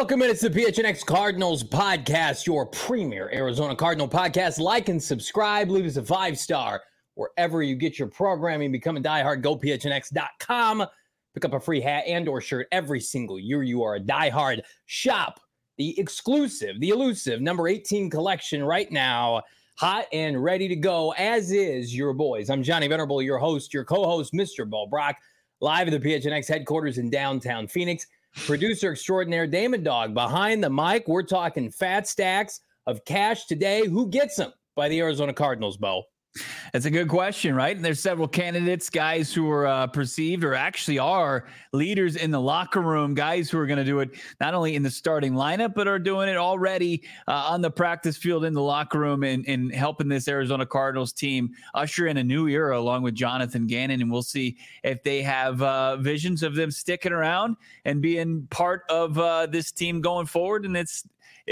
Welcome in. It's the PHNX Cardinals podcast, your premier Arizona Cardinal podcast. Like and subscribe. Leave us a 5-star wherever you get your programming. Become a diehard. Go PHNX.com. Pick up a free hat and or shirt every single year you are a diehard. Shop the exclusive, the elusive number 18 collection right now. Hot and ready to go, as is your boys. I'm Johnny Venerable, your host, your co-host, Mr. Bo Brock, live at the PHNX headquarters in downtown Phoenix. Producer extraordinaire Damon Dog behind the mic. We're talking fat stacks of cash today. Who gets them by the Arizona Cardinals, Bo? That's a good question, right? And there's several candidates, guys who are perceived or actually are leaders in the locker room, guys who are going to do it not only in the starting lineup, but are doing it already on the practice field in the locker room and helping this Arizona Cardinals team usher in a new era along with Jonathan Gannon. And we'll see if they have visions of them sticking around and being part of this team going forward. And it's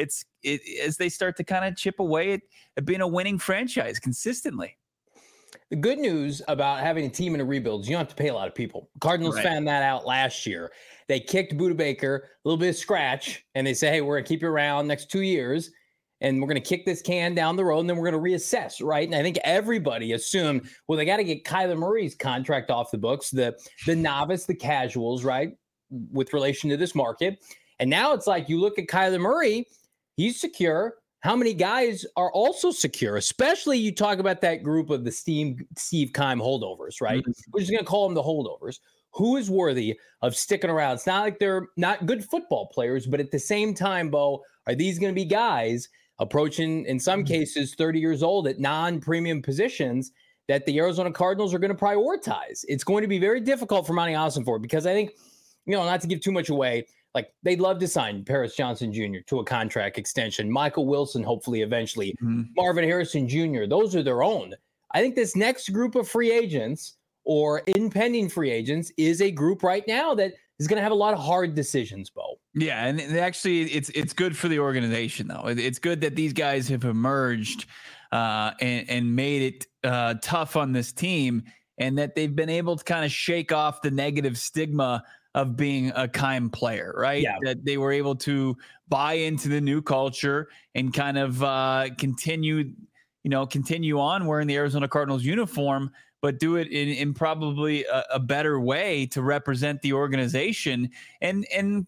as they start to kind of chip away at being a winning franchise consistently. The good news about having a team in a rebuild is you don't have to pay a lot of people. Cardinals found that out last year. They kicked Budda Baker, a little bit of scratch, and they say, hey, we're going to keep you around next 2 years, and we're going to kick this can down the road, and then we're going to reassess, right? And I think everybody assumed, well, they got to get Kyler Murray's contract off the books, the novice, the casuals, right, with relation to this market. And now it's like you look at Kyler Murray, he's secure. How many guys are also secure? Especially you talk about that group of the Steve Keim holdovers, right? Mm-hmm. We're just going to call them the holdovers. Who is worthy of sticking around? It's not like they're not good football players, but at the same time, Bo, are these going to be guys approaching, in some cases, 30 years old at non-premium positions that the Arizona Cardinals are going to prioritize? It's going to be very difficult for Monty Ossenfort because I think, not to give too much away, like they'd love to sign Paris Johnson Jr. to a contract extension. Michael Wilson, hopefully, eventually. Marvin Harrison Jr. Those are their own. I think this next group of free agents or impending free agents is a group right now that is going to have a lot of hard decisions, Bo. Yeah, and actually, it's good for the organization, though. It's good that these guys have emerged and made it tough on this team, and that they've been able to kind of shake off the negative stigma of being a Keim player, right? Yeah. That they were able to buy into the new culture and kind of continue on wearing the Arizona Cardinals uniform, but do it in probably a better way to represent the organization and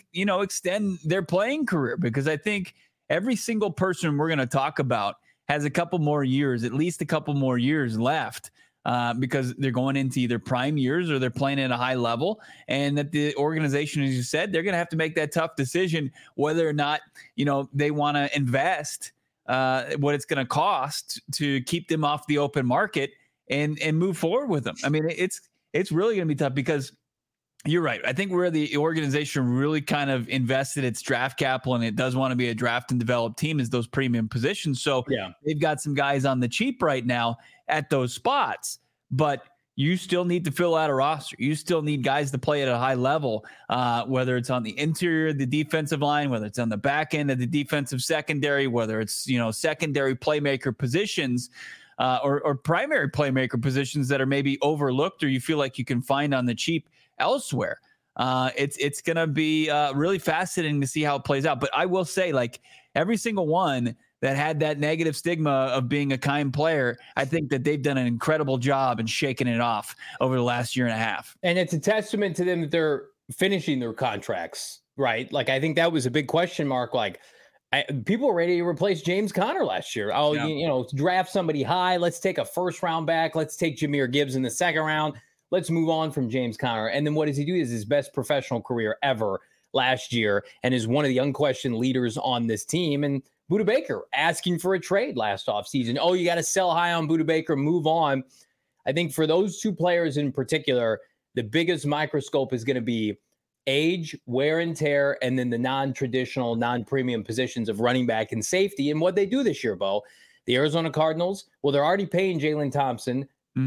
extend their playing career. Because I think every single person we're going to talk about has at least a couple more years left. Because they're going into either prime years or they're playing at a high level, and that the organization, as you said, they're going to have to make that tough decision whether or not, they want to invest what it's going to cost to keep them off the open market and move forward with them. I mean, it's really going to be tough because you're right. I think where the organization really kind of invested its draft capital, and it does want to be a draft and develop team, is those premium positions. So they've got some guys on the cheap right now at those spots, but you still need to fill out a roster. You still need guys to play at a high level, whether it's on the interior of the defensive line, whether it's on the back end of the defensive secondary, whether it's, secondary playmaker positions or primary playmaker positions that are maybe overlooked or you feel like you can find on the cheap elsewhere. It's going to be really fascinating to see how it plays out. But I will say, like, every single one that had that negative stigma of being a Keim player, I think that they've done an incredible job in shaking it off over the last year and a half. And it's a testament to them that they're finishing their contracts, right? Like, I think that was a big question mark. Like, people were ready to replace James Conner last year. Draft somebody high. Let's take a first round back. Let's take Jahmyr Gibbs in the second round. Let's move on from James Conner. And then what does he do? Is his best professional career ever last year and is one of the unquestioned leaders on this team. And Budda Baker asking for a trade last offseason. Oh, you got to sell high on Budda Baker, move on. I think for those two players in particular, the biggest microscope is going to be age, wear and tear, and then the non-traditional, non-premium positions of running back and safety. And what they do this year, Bo, the Arizona Cardinals, well, they're already paying Jalen Thompson,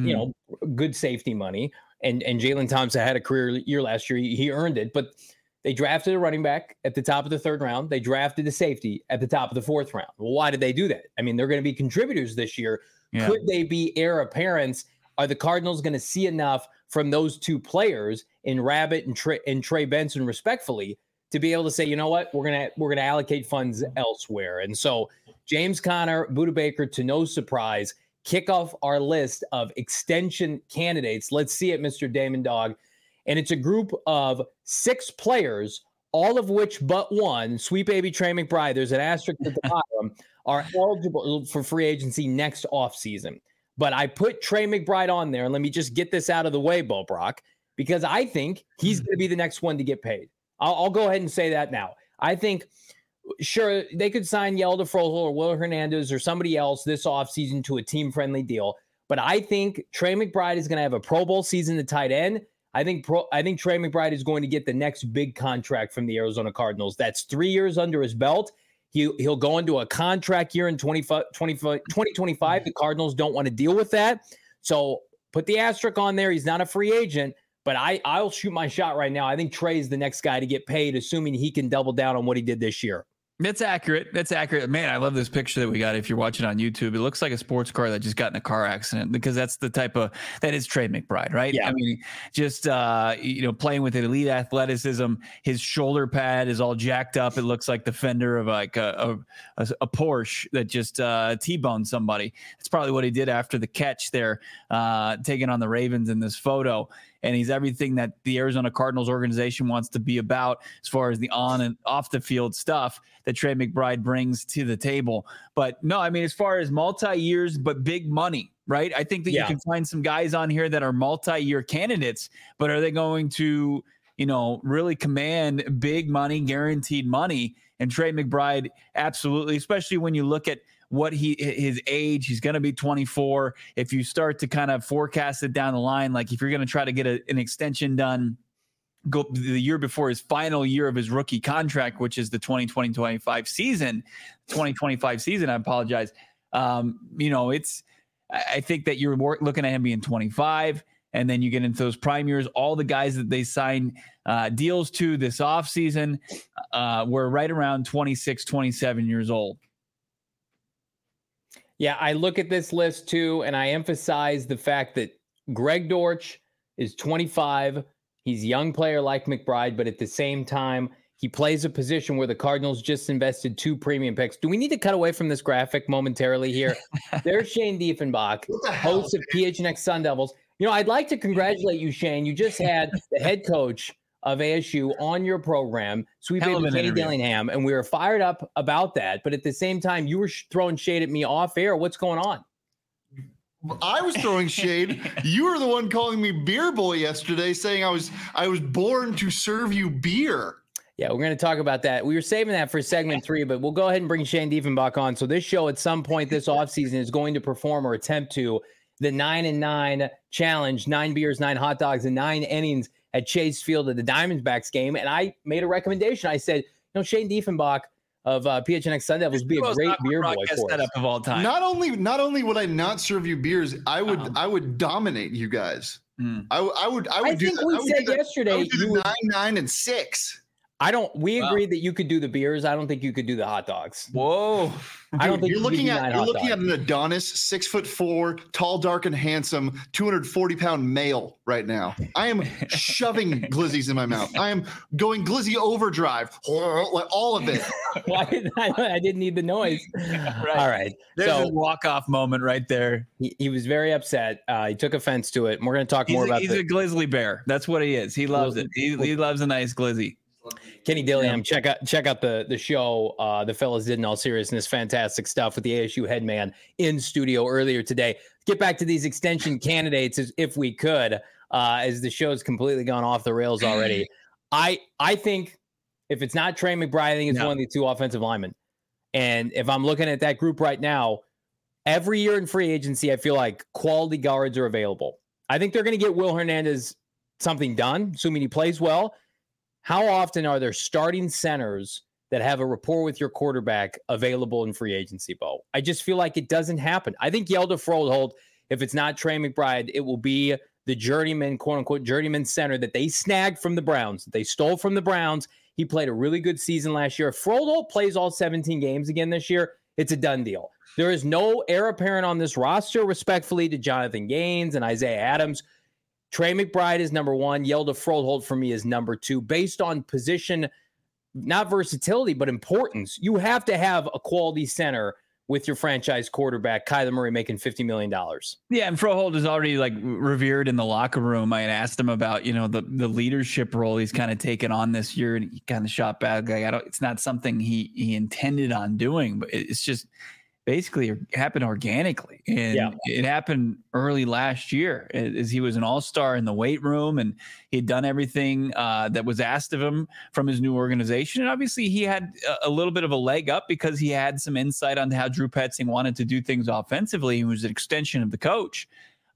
good safety money. And Jalen Thompson had a career year last year. He earned it, but they drafted a running back at the top of the third round. They drafted a safety at the top of the fourth round. Well, why did they do that? I mean, they're going to be contributors this year. Yeah. Could they be heir apparents? Are the Cardinals going to see enough from those two players in Rabbit and Trey Benson, respectfully, to be able to say, you know what, we're gonna allocate funds elsewhere. And so James Conner, Budda Baker, to no surprise, kick off our list of extension candidates. Let's see it, Mr. Damon Dog. And it's a group of 6 players, all of which but one, sweet baby Trey McBride, there's an asterisk at the bottom, are eligible for free agency next offseason. But I put Trey McBride on there, and let me just get this out of the way, Bo Brock, because I think he's going to be the next one to get paid. I'll go ahead and say that now. I think, sure, they could sign Yelda Froholt or Will Hernandez or somebody else this offseason to a team-friendly deal. But I think Trey McBride is going to have a Pro Bowl season at tight end. I think Trey McBride is going to get the next big contract from the Arizona Cardinals. That's 3 years under his belt. He'll go into a contract year in 2025. The Cardinals don't want to deal with that. So put the asterisk on there. He's not a free agent. But I'll shoot my shot right now. I think Trey's the next guy to get paid, assuming he can double down on what he did this year. That's accurate. That's accurate. Man, I love this picture that we got. If you're watching on YouTube, it looks like a sports car that just got in a car accident, because that's the type of, that is Trey McBride, right? Yeah. I mean, just, playing with elite athleticism, his shoulder pad is all jacked up. It looks like the fender of like a Porsche that just T-boned somebody. That's probably what he did after the catch there, taking on the Ravens in this photo. And he's everything that the Arizona Cardinals organization wants to be about as far as the on and off the field stuff that Trey McBride brings to the table. But no, I mean, as far as multi-years, but big money, right? I think that you can find some guys on here that are multi-year candidates, but are they going to, really command big money, guaranteed money? And Trey McBride, absolutely, especially when you look at what his age, he's going to be 24. If you start to kind of forecast it down the line, like if you're going to try to get an extension done, go the year before his final year of his rookie contract, which is the 2020-25 season, I apologize. I think that you're looking at him being 25, and then you get into those prime years. All the guys that they signed deals to this offseason were right around 26, 27 years old. Yeah, I look at this list too, and I emphasize the fact that Greg Dortch is 25. He's a young player like McBride, but at the same time, he plays a position where the Cardinals just invested 2 premium picks. Do we need to cut away from this graphic momentarily here? There's Shane Diefenbach, host of PHNX Sun Devils. I'd like to congratulate you, Shane. You just had the head coach of ASU on your program, sweet baby Kenny Dillingham, and we were fired up about that. But at the same time, you were throwing shade at me off air. What's going on? I was throwing shade. You were the one calling me beer boy yesterday, saying I was born to serve you beer. Yeah, we're going to talk about that. We were saving that for segment 3, but we'll go ahead and bring Shane Diefenbach on. So this show at some point this offseason is going to perform or attempt to the 9-9 challenge, 9 beers, 9 hot dogs, and 9 innings at Chase Field at the Diamondbacks game. And I made a recommendation. I said, Shane Diefenbach of PHNX Sun Devils would be a great beer boy for us. Of all time. Not only would I not serve you beers, I would dominate you guys. I would. I think we said yesterday I would do 9, 9, and 6. We agreed that you could do the beers. I don't think you could do the hot dogs. Whoa. I don't think you're looking at an Adonis, 6'4", tall, dark, and handsome, 240-pound male right now. I am shoving glizzies in my mouth. I am going glizzy overdrive, like all of it. I didn't need the noise. Right. All right. There's a walk-off moment right there. He was very upset. He took offense to it. And we're going to talk more about He's a grizzly bear. That's what he is. He loves it. He loves a nice glizzy. Kenny Dillingham, check out the show the fellas did in all seriousness. Fantastic stuff with the ASU head man in studio earlier today. Get back to these extension candidates if we could, as the show's completely gone off the rails already. I think if it's not Trey McBride, I think it's one of the 2 offensive linemen. And if I'm looking at that group right now, every year in free agency, I feel like quality guards are available. I think they're going to get Will Hernandez something done, assuming he plays well. How often are there starting centers that have a rapport with your quarterback available in free agency, Bo? I just feel like it doesn't happen. I think Yelda Froholt, if it's not Trey McBride, it will be the journeyman, quote-unquote, journeyman center that they snagged from the Browns. They stole from the Browns. He played a really good season last year. If Froholt plays all 17 games again this year, it's a done deal. There is no heir apparent on this roster, respectfully, to Jonathan Gaines and Isaiah Adams. Trey McBride is number 1. Yelda Froholt for me is number 2, based on position not versatility, but importance. You have to have a quality center with your franchise quarterback, Kyler Murray, making $50 million. Yeah, and Froholt is already like revered in the locker room. I had asked him about, the leadership role he's kind of taken on this year, and he kind of shot back. Like, it's not something he intended on doing, but it's just basically happened organically. And it happened early last year as he was an all-star in the weight room, and he'd done everything that was asked of him from his new organization. And obviously he had a little bit of a leg up because he had some insight on how Drew Petzing wanted to do things offensively. He was an extension of the coach.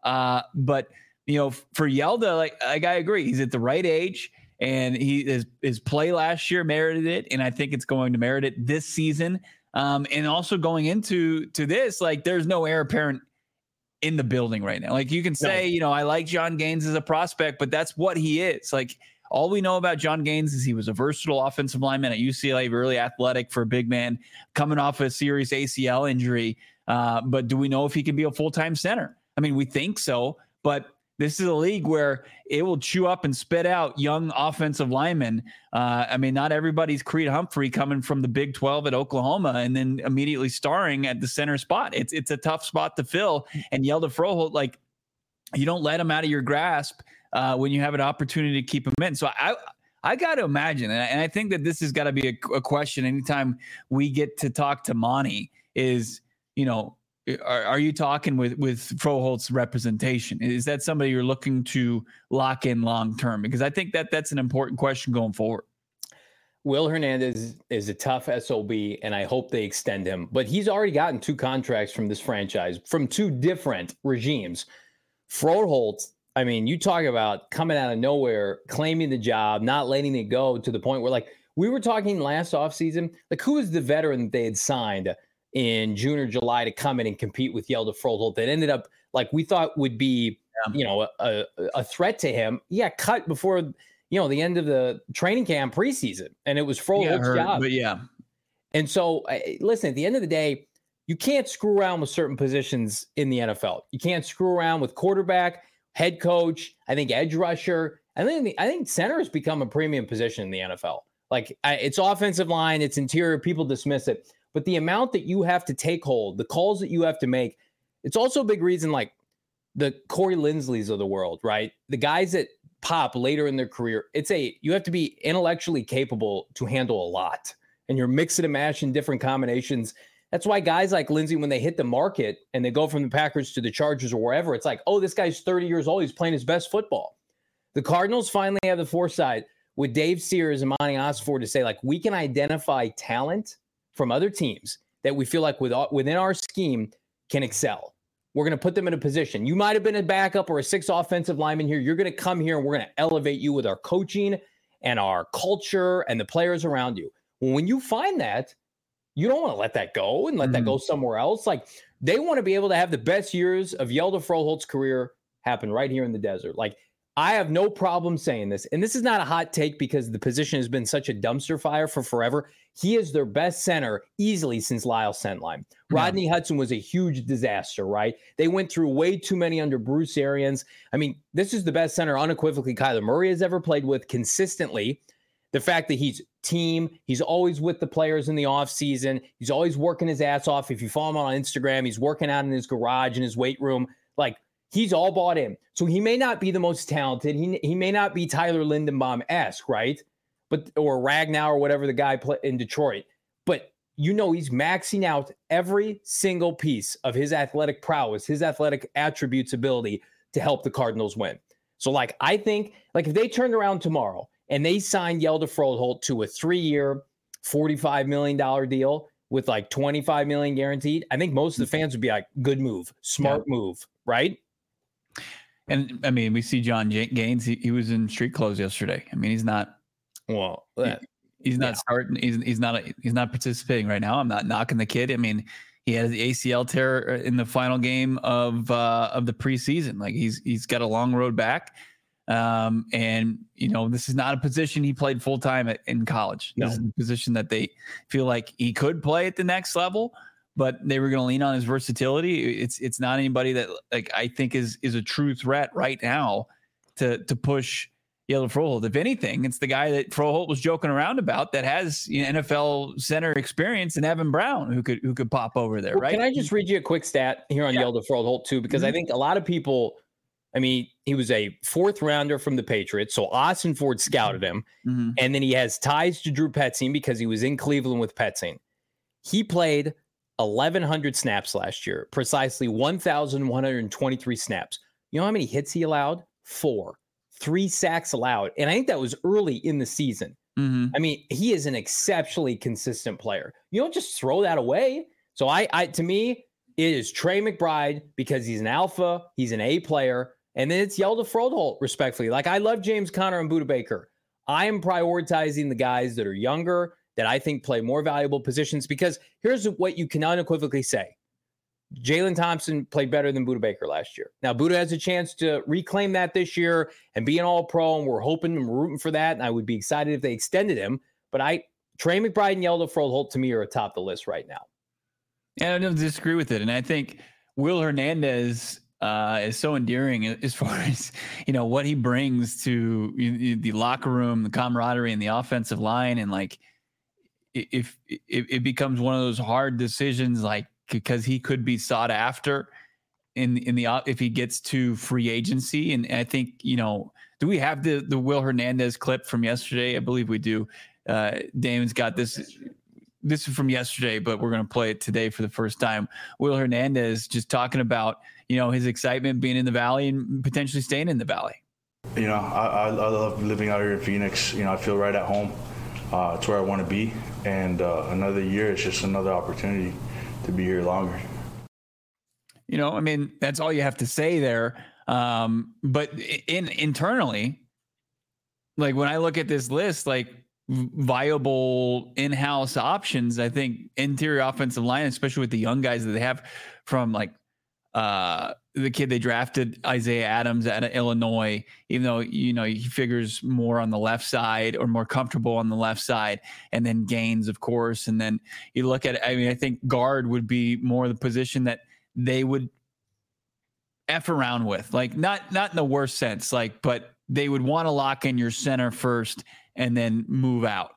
But for Yelda, like I agree, he's at the right age, and his play last year merited it. And I think it's going to merit it this season. And also going into this, like, there's no heir apparent in the building right now. Like, you can say, I like John Gaines as a prospect, but that's what he is. Like, all we know about John Gaines is he was a versatile offensive lineman at UCLA, really athletic for a big man, coming off a serious ACL injury. But do we know if he can be a full-time center? I mean, we think so, but this is a league where it will chew up and spit out young offensive linemen. Not everybody's Creed Humphrey coming from the Big 12 at Oklahoma and then immediately starring at the center spot. It's a tough spot to fill. And Yelda Froholt, like, you don't let him out of your grasp when you have an opportunity to keep him in. So I got to imagine, and I think that this has got to be a question anytime we get to talk to Monty is, are you talking with Froholt's representation? Is that somebody you're looking to lock in long term? Because I think that's an important question going forward. Will Hernandez is a tough SOB, and I hope they extend him. But he's already gotten 2 contracts from this franchise from 2 different regimes. Froholt, I mean, you talk about coming out of nowhere, claiming the job, not letting it go to the point where, like, we were talking last offseason, like, who is the veteran that they had signed in June or July to come in and compete with Yelda Froholt that ended up, like, we thought would be, a threat to him. He got cut before, the end of the training camp preseason, and it was Froholt's job. But yeah. And so, listen, at the end of the day, you can't screw around with certain positions in the NFL. You can't screw around with quarterback, head coach, I think edge rusher. I think center has become a premium position in the NFL. Like, it's offensive line, it's interior, people dismiss it. But the amount that you have to take hold, the calls that you have to make, it's also a big reason, like the Corey Linsleys of the world, right? The guys that pop later in their career, you have to be intellectually capable to handle a lot. And you're mixing and mashing different combinations. That's why guys like Lindsey, when they hit the market and they go from the Packers to the Chargers or wherever, it's like, oh, this guy's 30 years old. He's playing his best football. The Cardinals finally have the foresight with Dave Sears and Monty Osford to say, like, we can identify talent from other teams that we feel like within our scheme can excel. We're going to put them in a position. You might have been a backup or a 6th offensive lineman here. You're going to come here and we're going to elevate you with our coaching and our culture and the players around you. Well, when you find that, you don't want to let that go and let that go somewhere else. Like, they want to be able to have the best years of Yelda Froholt's career happen right here in the desert. Like, I have no problem saying this, and this is not a hot take because the position has been such a dumpster fire for forever. He is their best center easily since Lyle Sentline. Rodney Hudson was a huge disaster, right? They went through way too many under Bruce Arians. I mean, this is the best center unequivocally Kyler Murray has ever played with consistently. The fact that he's team, he's always with the players in the offseason. He's always working his ass off. If you follow him on Instagram, he's working out in his garage, in his weight room. Like, he's all bought in. So he may not be the most talented. He may not be Tyler Lindenbaum-esque, right? Or Ragnow or whatever the guy in Detroit. But he's maxing out every single piece of his athletic prowess, his athletic attributes, ability to help the Cardinals win. So, like, I think, like, if they turned around tomorrow and they signed Yelda Froholt to a 3-year, $45 million deal with like $25 million guaranteed, I think most of the fans would be like, good move, smart move, right? And I mean, we see John Gaines. He was in street clothes yesterday. I mean, he's not. Well, he's not starting. He's not participating right now. I'm not knocking the kid. I mean, he had the ACL tear in the final game of the preseason. Like, he's got a long road back. And this is not a position he played full time in college. This is a position that they feel like he could play at the next level, but they were going to lean on his versatility. It's not anybody that, like, I think is a true threat right now to push Hjalte Froholdt. If anything, it's the guy that Froholdt was joking around about that has NFL center experience, and Evan Brown, who could pop over there, right? Can I just read you a quick stat here on Hjalte Froholdt too? Because I think a lot of people, I mean, he was a 4th rounder from the Patriots, so Austin Ford scouted him, and then he has ties to Drew Petzing because he was in Cleveland with Petzing. He played 1,100 snaps last year, precisely 1,123 snaps. You know how many hits he allowed? 4. 3 sacks allowed. And I think that was early in the season. I mean, he is an exceptionally consistent player. You don't just throw that away. So to me, it is Trey McBride because he's an alpha, he's an A player, and then it's Hjalte Froholdt, respectfully. Like, I love James Conner and Budda Baker. I am prioritizing the guys that are younger, that I think play more valuable positions, because here's what you can unequivocally say. Jalen Thompson played better than Budda Baker last year. Now, Budda has a chance to reclaim that this year and be an all-pro, and we're hoping and rooting for that, and I would be excited if they extended him. But Trey McBride and Hjalte Froholdt, to me, are atop the list right now. Yeah, I don't disagree with it. And I think Will Hernandez is so endearing as far as, what he brings to the locker room, the camaraderie, and the offensive line. And, like, if it becomes one of those hard decisions, like, because he could be sought after if he gets to free agency. And I think, do we have the Will Hernandez clip from yesterday? I believe we do. Damon's got this. This is from yesterday, but we're going to play it today for the first time. Will Hernandez just talking about, his excitement being in the Valley and potentially staying in the Valley. I love living out here in Phoenix. I feel right at home. It's where I want to be. And another year, it's just another opportunity to be here longer. That's all you have to say there. But internally, like, when I look at this list, like, viable in-house options, I think interior offensive line, especially with the young guys that they have from, like, the kid they drafted, Isaiah Adams out of Illinois, even though, he figures more on the left side or more comfortable on the left side, and then Gaines, of course. And then you look at, I think guard would be more the position that they would F around with, like, not in the worst sense, like, but they would want to lock in your center first and then move out.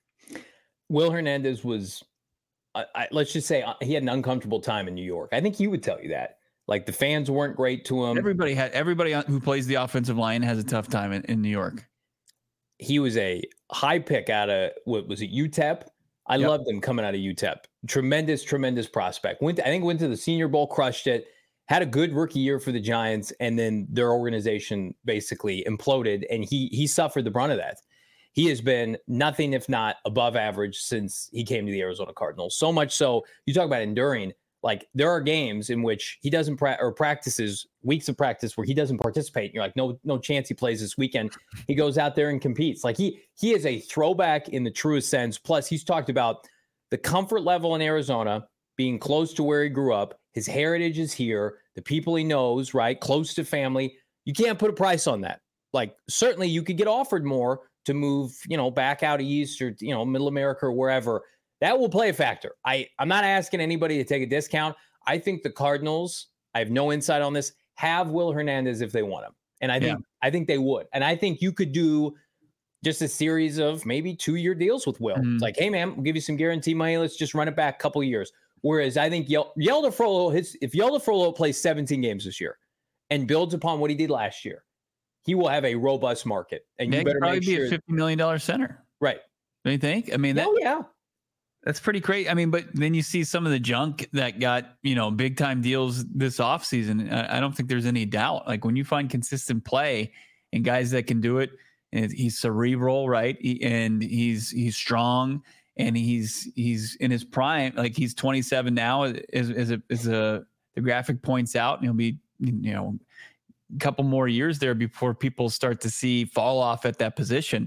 Will Hernandez was, let's just say, he had an uncomfortable time in New York. I think he would tell you that. Like, the fans weren't great to him. Everybody who plays the offensive line has a tough time in New York. He was a high pick out of, what was it, UTEP? I loved him coming out of UTEP. Tremendous prospect. Went to the Senior Bowl, crushed it, had a good rookie year for the Giants, and then their organization basically imploded, and he suffered the brunt of that. He has been nothing if not above average since he came to the Arizona Cardinals. So much so, you talk about enduring. Like, there are games in which he doesn't practices, weeks of practice where he doesn't participate. And you're like, no chance he plays this weekend. He goes out there and competes. Like, he is a throwback in the truest sense. Plus, he's talked about the comfort level in Arizona, being close to where he grew up. His heritage is here. The people he knows, right? Close to family. You can't put a price on that. Like, certainly you could get offered more to move, back out east or, middle America or wherever. That will play a factor. I'm not asking anybody to take a discount. I think the Cardinals, I have no insight on this, have Will Hernandez if they want him. And I think they would. And I think you could do just a series of maybe 2-year deals with Will. It's like, hey, man, we'll give you some guarantee money. Let's just run it back a couple of years. Whereas I think Hjalte Froholdt, if Hjalte Froholdt plays 17 games this year and builds upon what he did last year, he will have a robust market. And you better probably make be sure. a $50 million center. Right. Don't you think? That's pretty great. But then you see some of the junk that got, big time deals this offseason. I don't think there's any doubt. Like, when you find consistent play and guys that can do it, and he's cerebral, right? He's strong, and he's in his prime. Like, he's 27 now, as the graphic points out, and he'll be, a couple more years there before people start to see fall off at that position.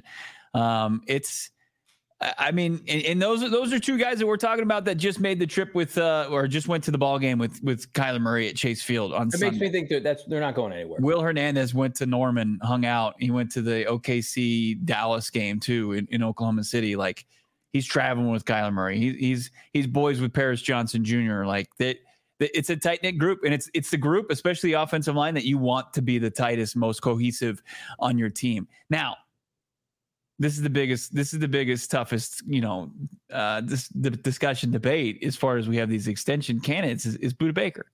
And those are two guys that we're talking about that just made the trip with, or just went to the ball game with Kyler Murray at Chase Field on Sunday. It makes me think that they're not going anywhere. Will Hernandez went to Norman, hung out. He went to the OKC Dallas game too in Oklahoma City. Like, he's traveling with Kyler Murray. He's boys with Paris Johnson Jr. Like, that. it's a tight knit group, and it's the group, especially the offensive line, that you want to be the tightest, most cohesive on your team. Now, this is the biggest, toughest, the discussion debate as far as we have these extension candidates is Budda Baker.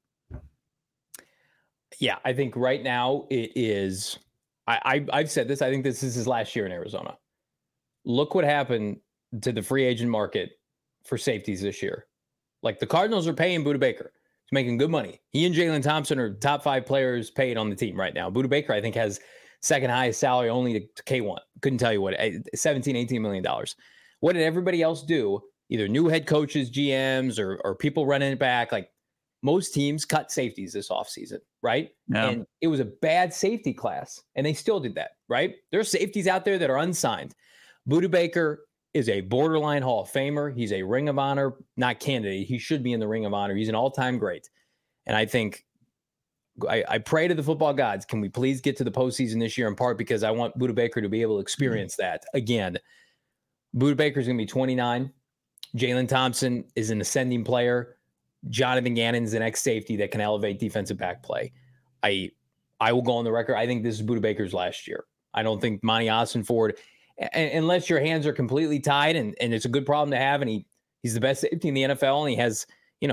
Yeah, I think right now it is. I've said this. I think this is his last year in Arizona. Look what happened to the free agent market for safeties this year. Like, the Cardinals are paying Budda Baker. He's making good money. He and Jalen Thompson are top 5 players paid on the team right now. Budda Baker, I think, has second highest salary only to K1. Couldn't tell you what, $17-18 million. What did everybody else do? Either new head coaches, GMs, or people running it back. Like, most teams cut safeties this offseason, right? Yeah. And it was a bad safety class, and they still did that, right? There's safeties out there that are unsigned. Budda Baker is a borderline Hall of Famer. He's a Ring of Honor, not candidate. He should be in the Ring of Honor. He's an all-time great. And I think I pray to the football gods, can we please get to the postseason this year, in part because I want Budda Baker to be able to experience that again. Budda Baker is going to be 29. Jalen Thompson is an ascending player. Jonathan Gannon's the next safety that can elevate defensive back play. I will go on the record. I think this is Budda Baker's last year. I don't think Monty Ossenford, unless your hands are completely tied, and it's a good problem to have, and he's the best safety in the NFL, and he has,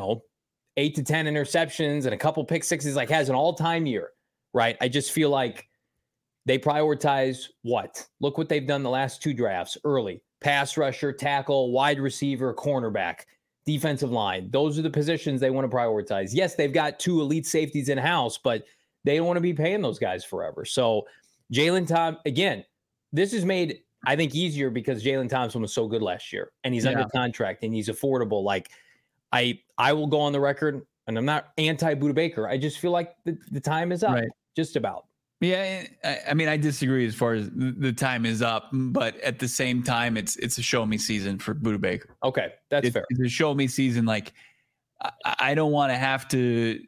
8 to 10 interceptions and a couple pick sixes, like has an all-time year, right? I just feel like they prioritize what? Look what they've done the last 2 drafts early. Pass rusher, tackle, wide receiver, cornerback, defensive line. Those are the positions they want to prioritize. Yes, they've got 2 elite safeties in-house, but they don't want to be paying those guys forever. So Jalen Thompson, again, this is made, I think, easier because Jalen Thompson was so good last year, and he's under contract, and he's affordable. Like, I will go on the record, and I'm not anti-Budda Baker. I just feel like the time is up, right? Just about. Yeah, I mean, I disagree as far as the time is up, but at the same time, it's a show me season for Budda Baker. Okay, that's fair. It's a show me season. Like, I don't want to have to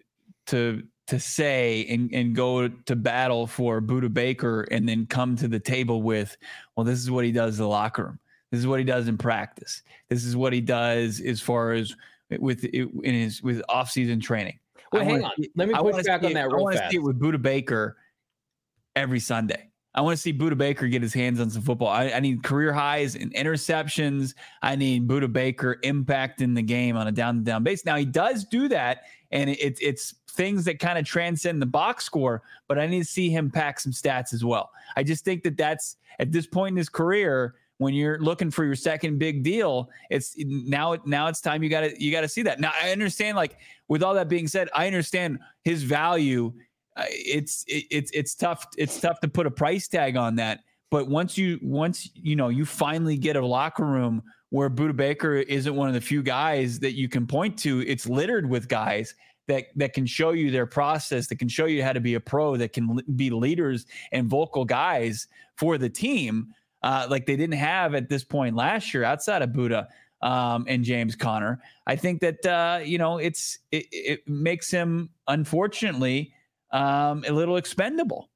say and go to battle for Budda Baker and then come to the table with, well, this is what he does in the locker room. This is what he does in practice. This is what he does as far as with off-season training. Well, hang on. Let me push back on that real fast. I want to see it with Budda Baker every Sunday. I want to see Budda Baker get his hands on some football. I need career highs in interceptions. I need Budda Baker impacting the game on a down-to-down base. Now, he does do that, and it's things that kind of transcend the box score, but I need to see him pack some stats as well. I just think that's at this point in his career, when you're looking for your second big deal, it's now it's time you got to see that. Now, I understand, like, with all that being said, I understand his value. It's tough to put a price tag on that. But once you finally get a locker room where Budda Baker isn't one of the few guys that you can point to, it's littered with guys that can show you their process, that can show you how to be a pro, that can be leaders and vocal guys for the team, like they didn't have at this point last year outside of Budda and James Conner. I think that it makes him, unfortunately, a little expendable.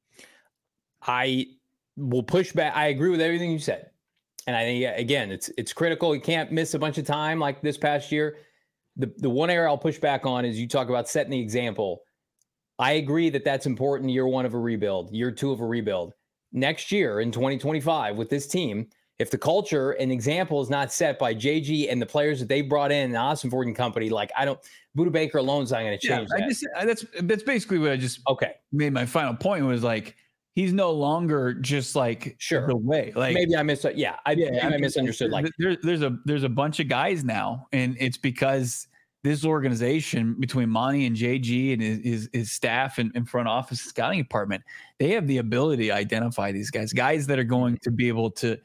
I will push back. I agree with everything you said. And I think, again, it's critical. You can't miss a bunch of time like this past year. The one area I'll push back on is you talk about setting the example. I agree that that's important year one of a rebuild, year two of a rebuild. Next year in 2025 with this team, if the culture and example is not set by JG and the players that they brought in, the Ossenford and company, like Budda Baker alone is not going to change that. That's basically what I just made my final point was like, he's no longer just like the way. Like maybe I misunderstood. Yeah, I misunderstood. Like there's a bunch of guys now, and it's because this organization between Monty and JG and his staff and front office scouting department, they have the ability to identify these guys that are going to be able to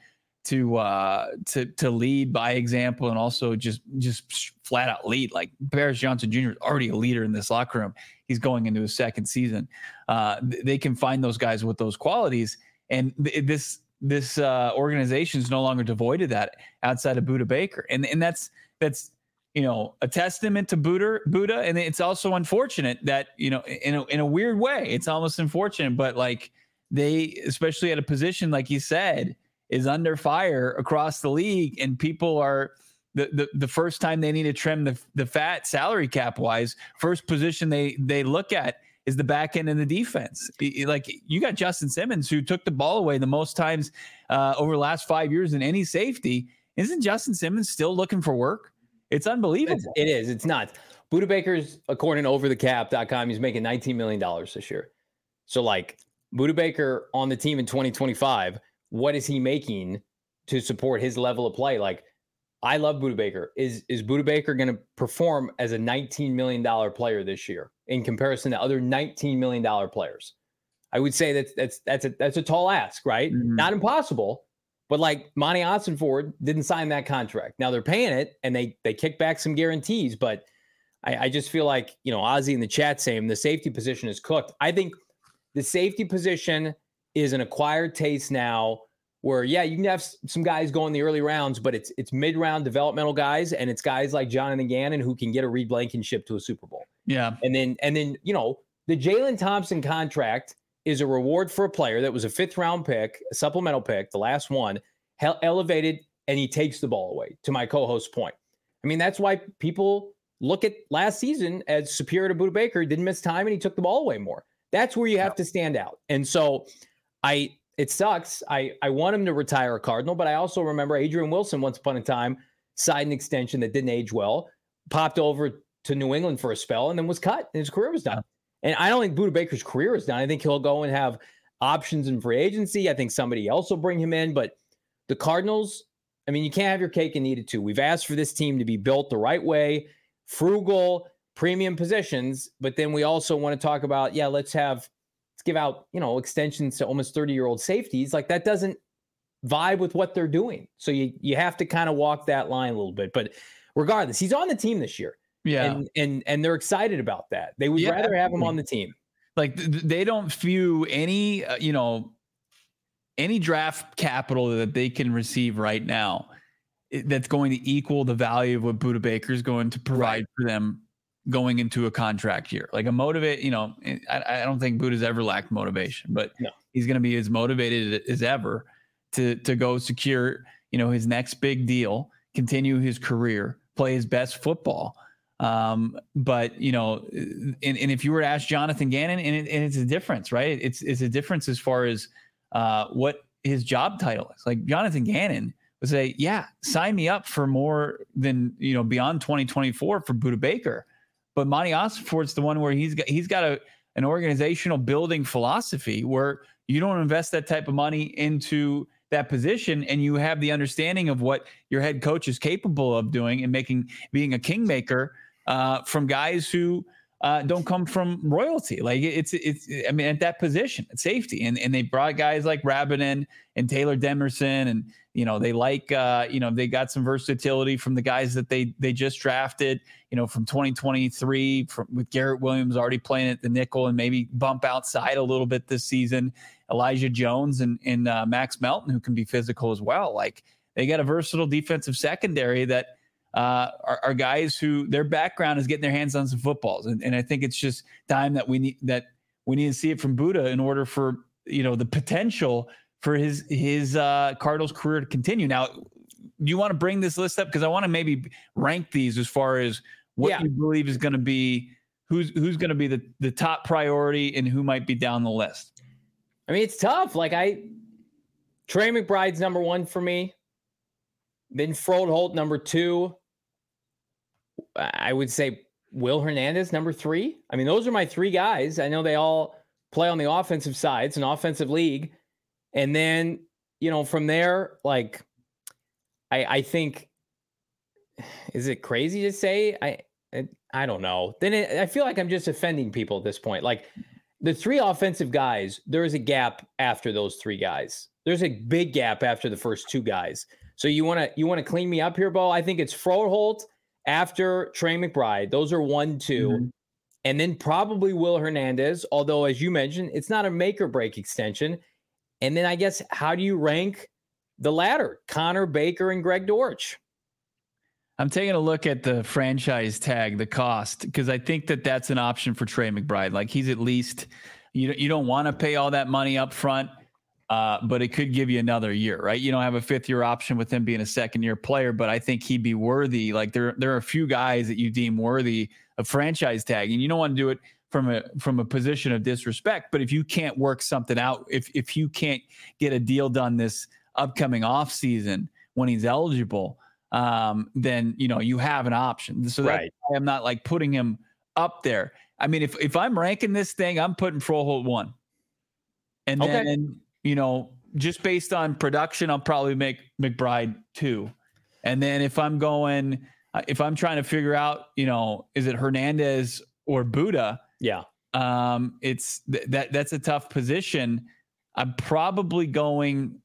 lead by example and also just flat out lead. Like Paris Johnson Jr. is already a leader in this locker room. He's going into his second season. They can find those guys with those qualities, and this organization is no longer devoid of that outside of Budda Baker, and that's a testament to Budda, and it's also unfortunate that in a weird way, it's almost unfortunate, but like they, especially at a position like you said, is under fire across the league, and people are the first time they need to trim the fat salary cap wise, first position they look at is the back end of the defense. Like you got Justin Simmons, who took the ball away the most times over the last 5 years in any safety. Isn't Justin Simmons still looking for work? It's unbelievable. It is. It's not. Budda Baker's, according to overthecap.com, he's making $19 million this year. So like Budda Baker on the team in 2025, what is he making to support his level of play? Like, I love Budda Baker. Is Budda Baker going to perform as a $19 million player this year in comparison to other $19 million players? I would say that's a tall ask, right? Mm-hmm. Not impossible, but like Monty Ossenford didn't sign that contract. Now they're paying it and they kick back some guarantees, but I just feel like, Ozzy in the chat saying the safety position is cooked. I think the safety position is an acquired taste now where, yeah, you can have some guys go in the early rounds, but it's mid-round developmental guys, and it's guys like Jonathan Gannon who can get a Reed Blankenship to a Super Bowl. Yeah. And then the Jalen Thompson contract is a reward for a player that was a 5th-round pick, a supplemental pick, the last one, elevated, and he takes the ball away, to my co-host's point. I mean, that's why people look at last season as superior to Budda Baker. Didn't miss time, and he took the ball away more. That's where you have to stand out. And so it sucks. I want him to retire a Cardinal, but I also remember Adrian Wilson once upon a time signed an extension that didn't age well, popped over to New England for a spell, and then was cut, and his career was done. And I don't think Budda Baker's career is done. I think he'll go and have options in free agency. I think somebody else will bring him in. But the Cardinals, I mean, you can't have your cake and eat it too. We've asked for this team to be built the right way, frugal, premium positions, but then we also want to talk about, let's give out, extensions to almost 30-year-old safeties. Like that doesn't vibe with what they're doing. So you have to kind of walk that line a little bit. But regardless, he's on the team this year. Yeah. And they're excited about that. They would rather have him on the team. Like they don't view any, any draft capital that they can receive right now that's going to equal the value of what Budda Baker is going to provide for them going into a contract year. Like I don't think Budda's ever lacked motivation, but he's going to be as motivated as ever to go secure, his next big deal, continue his career, play his best football. But and if you were to ask Jonathan Gannon, and it's a difference, right? It's a difference as far as what his job title is. Like Jonathan Gannon would say, sign me up for more than, beyond 2024 for Budda Baker. But Monty Ossenford's the one where he's got an organizational building philosophy where you don't invest that type of money into that position, and you have the understanding of what your head coach is capable of doing and being a kingmaker from guys who don't come from royalty. Like it's at that position at safety, and they brought guys like Rabin and Taylor Demerson, and they like they got some versatility from the guys that they just drafted, from 2023 with Garrett Williams already playing at the nickel and maybe bump outside a little bit this season. Elijah Jones and Max Melton, who can be physical as well. Like they got a versatile defensive secondary that are guys who their background is getting their hands on some footballs. And I think it's just time that we need to see it from Budda in order for, the potential for his Cardinals career to continue. Now, do you want to bring this list up? Because I want to maybe rank these as far as what you believe is going to be, who's going to be the top priority and who might be down the list. I mean, it's tough. Like Trey McBride's number 1 for me. Then Froholt, number 2. I would say Will Hernandez, number 3. I mean, those are my 3 guys. I know they all play on the offensive side. It's an offensive league. And then, from there, like, I think, is it crazy to say? I don't know. Then I feel like I'm just offending people at this point. Like, the 3 offensive guys, there is a gap after those 3 guys. There's a big gap after the first 2 guys. So you want to clean me up here, Bo? I think it's Froholt after Trey McBride. Those are 1, 2. And then probably Will Hernandez, although, as you mentioned, it's not a make or break extension. And then I guess, how do you rank the latter? Connor Baker and Greg Dortch. I'm taking a look at the franchise tag, the cost, because I think that's an option for Trey McBride. Like he's at least, you don't want to pay all that money up front. but it could give you another year, right? You don't have a 5th-year option with him being a second-year player, but I think he'd be worthy. Like there are a few guys that you deem worthy of franchise tag, and you don't want to do it from a position of disrespect. But if you can't work something out, if you can't get a deal done this upcoming off season when he's eligible, then you have an option. So that's why I'm not like putting him up there. I mean, if I'm ranking this thing, I'm putting Froholt 1, and then just based on production, I'll probably make McBride 2, and then if I'm trying to figure out, is it Hernandez or Buddha? Yeah. It's that's a tough position. I'm probably going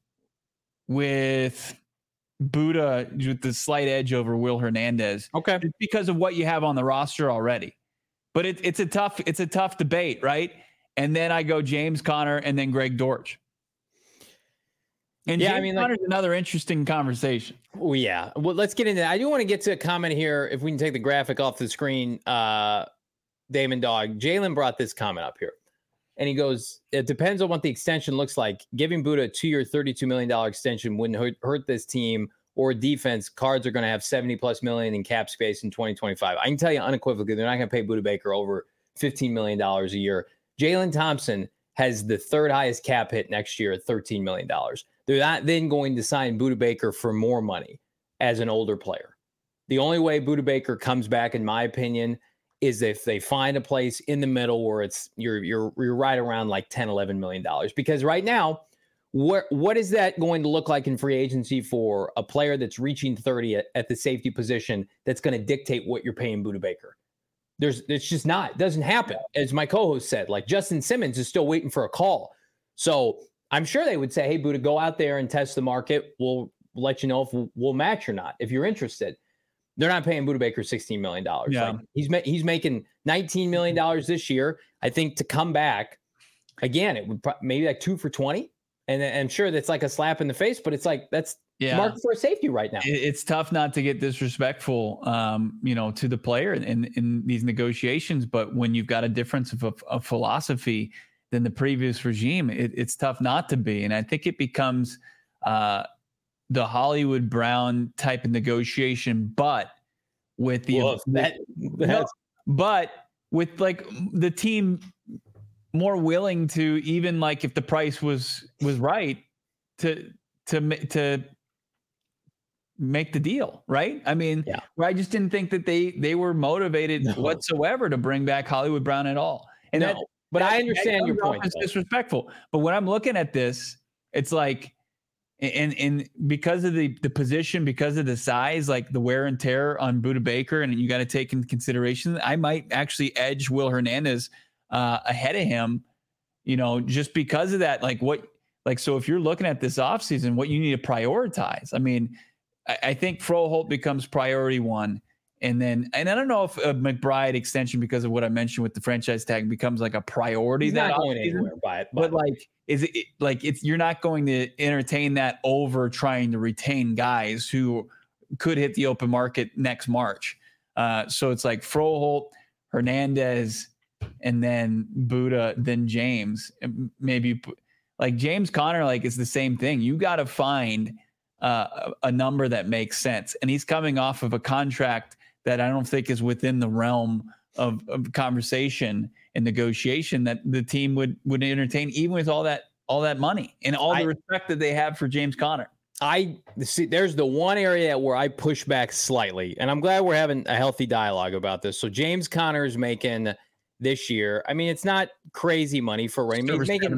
with Buddha with the slight edge over Will Hernandez. Okay. Just because of what you have on the roster already. But it's a tough debate, right? And then I go James Conner and then Greg Dortch. And James Conner's another interesting conversation. Well, yeah. Well, let's get into that. I do want to get to a comment here. If we can take the graphic off the screen, Damon Dog, Jalen brought this comment up here. And he goes, it depends on what the extension looks like. Giving Buddha a 2-year, $32 million extension wouldn't hurt this team or defense. Cards are going to have $70+ million in cap space in 2025. I can tell you unequivocally, they're not going to pay Buddha Baker over $15 million a year. Jalen Thompson has the 3rd highest cap hit next year at $13 million. They're not then going to sign Buddha Baker for more money as an older player. The only way Buddha Baker comes back, in my opinion, is if they find a place in the middle where it's you're right around like $10-11 million. Because right now, what is that going to look like in free agency for a player that's reaching 30 at the safety position that's going to dictate what you're paying Buddha Baker? It's just not. It doesn't happen. As my co-host said, like Justin Simmons is still waiting for a call. So I'm sure they would say, hey, Buddha, go out there and test the market. We'll let you know if we'll match or not, if you're interested. They're not paying Buddha Baker $16 million. Yeah. Like he's making $19 million this year. I think to come back, again, it would maybe like 2 for $20. And I'm sure that's like a slap in the face, but it's like that's market for a safety right now. It's tough not to get disrespectful, to the player in these negotiations. But when you've got a difference of a philosophy than the previous regime, it's tough not to be. And I think it becomes the Hollywood Brown type of negotiation, but with but with like the team more willing to, even like if the price was right, to make the deal, right? I mean, I just didn't think that they were motivated whatsoever to bring back Hollywood Brown at all. And but I understand your point. It's disrespectful. But when I'm looking at this, it's like, and because of the position, because of the size, like the wear and tear on Buddha Baker, and you got to take into consideration, I might actually edge Will Hernandez ahead of him, just because of that. So if you're looking at this offseason, what you need to prioritize, I mean, I think Froholt becomes priority 1. And I don't know if a McBride extension, because of what I mentioned with the franchise tag, becomes like a priority. He's not going anywhere, but like, is it like you're not going to entertain that over trying to retain guys who could hit the open market next March. So it's like Froholt, Hernandez, and then Buddha, then James. Maybe like James Conner, like it's the same thing. You got to find a number that makes sense. And he's coming off of a contract that I don't think is within the realm of conversation and negotiation that the team would entertain, even with all that money and all the respect that they have for James Conner. I see. There's the one area where I push back slightly, and I'm glad we're having a healthy dialogue about this. So James Conner is making this year. I mean, it's not crazy money for Raymond. He's making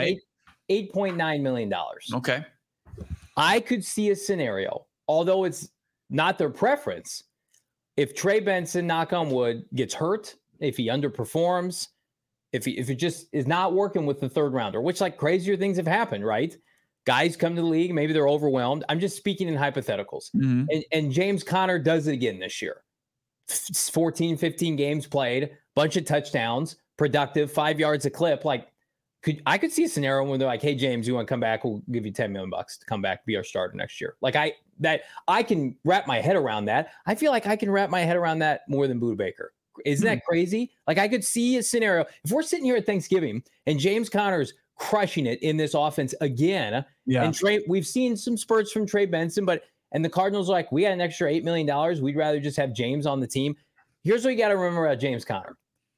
$8.9 million. Okay. I could see a scenario, although it's not their preference, if Trey Benson, knock on wood, gets hurt, if he underperforms, if it just is not working with the 3rd rounder, which like crazier things have happened, right? Guys come to the league, maybe they're overwhelmed. I'm just speaking in hypotheticals. Mm-hmm. And James Conner does it again this year. 14, 15 games played, bunch of touchdowns, productive, 5 yards a clip. Like, I could see a scenario where they're like, hey, James, you want to come back? We'll give you $10 million to come back, be our starter next year. Like I can wrap my head around that. I feel like I can wrap my head around that more than Buddha Baker. Isn't that crazy? Like I could see a scenario if we're sitting here at Thanksgiving and James Conner's crushing it in this offense again. Yeah. And we've seen some spurts from Trey Benson, and the Cardinals are like, we got an extra $8 million. We'd rather just have James on the team. Here's what you got to remember about James Conner.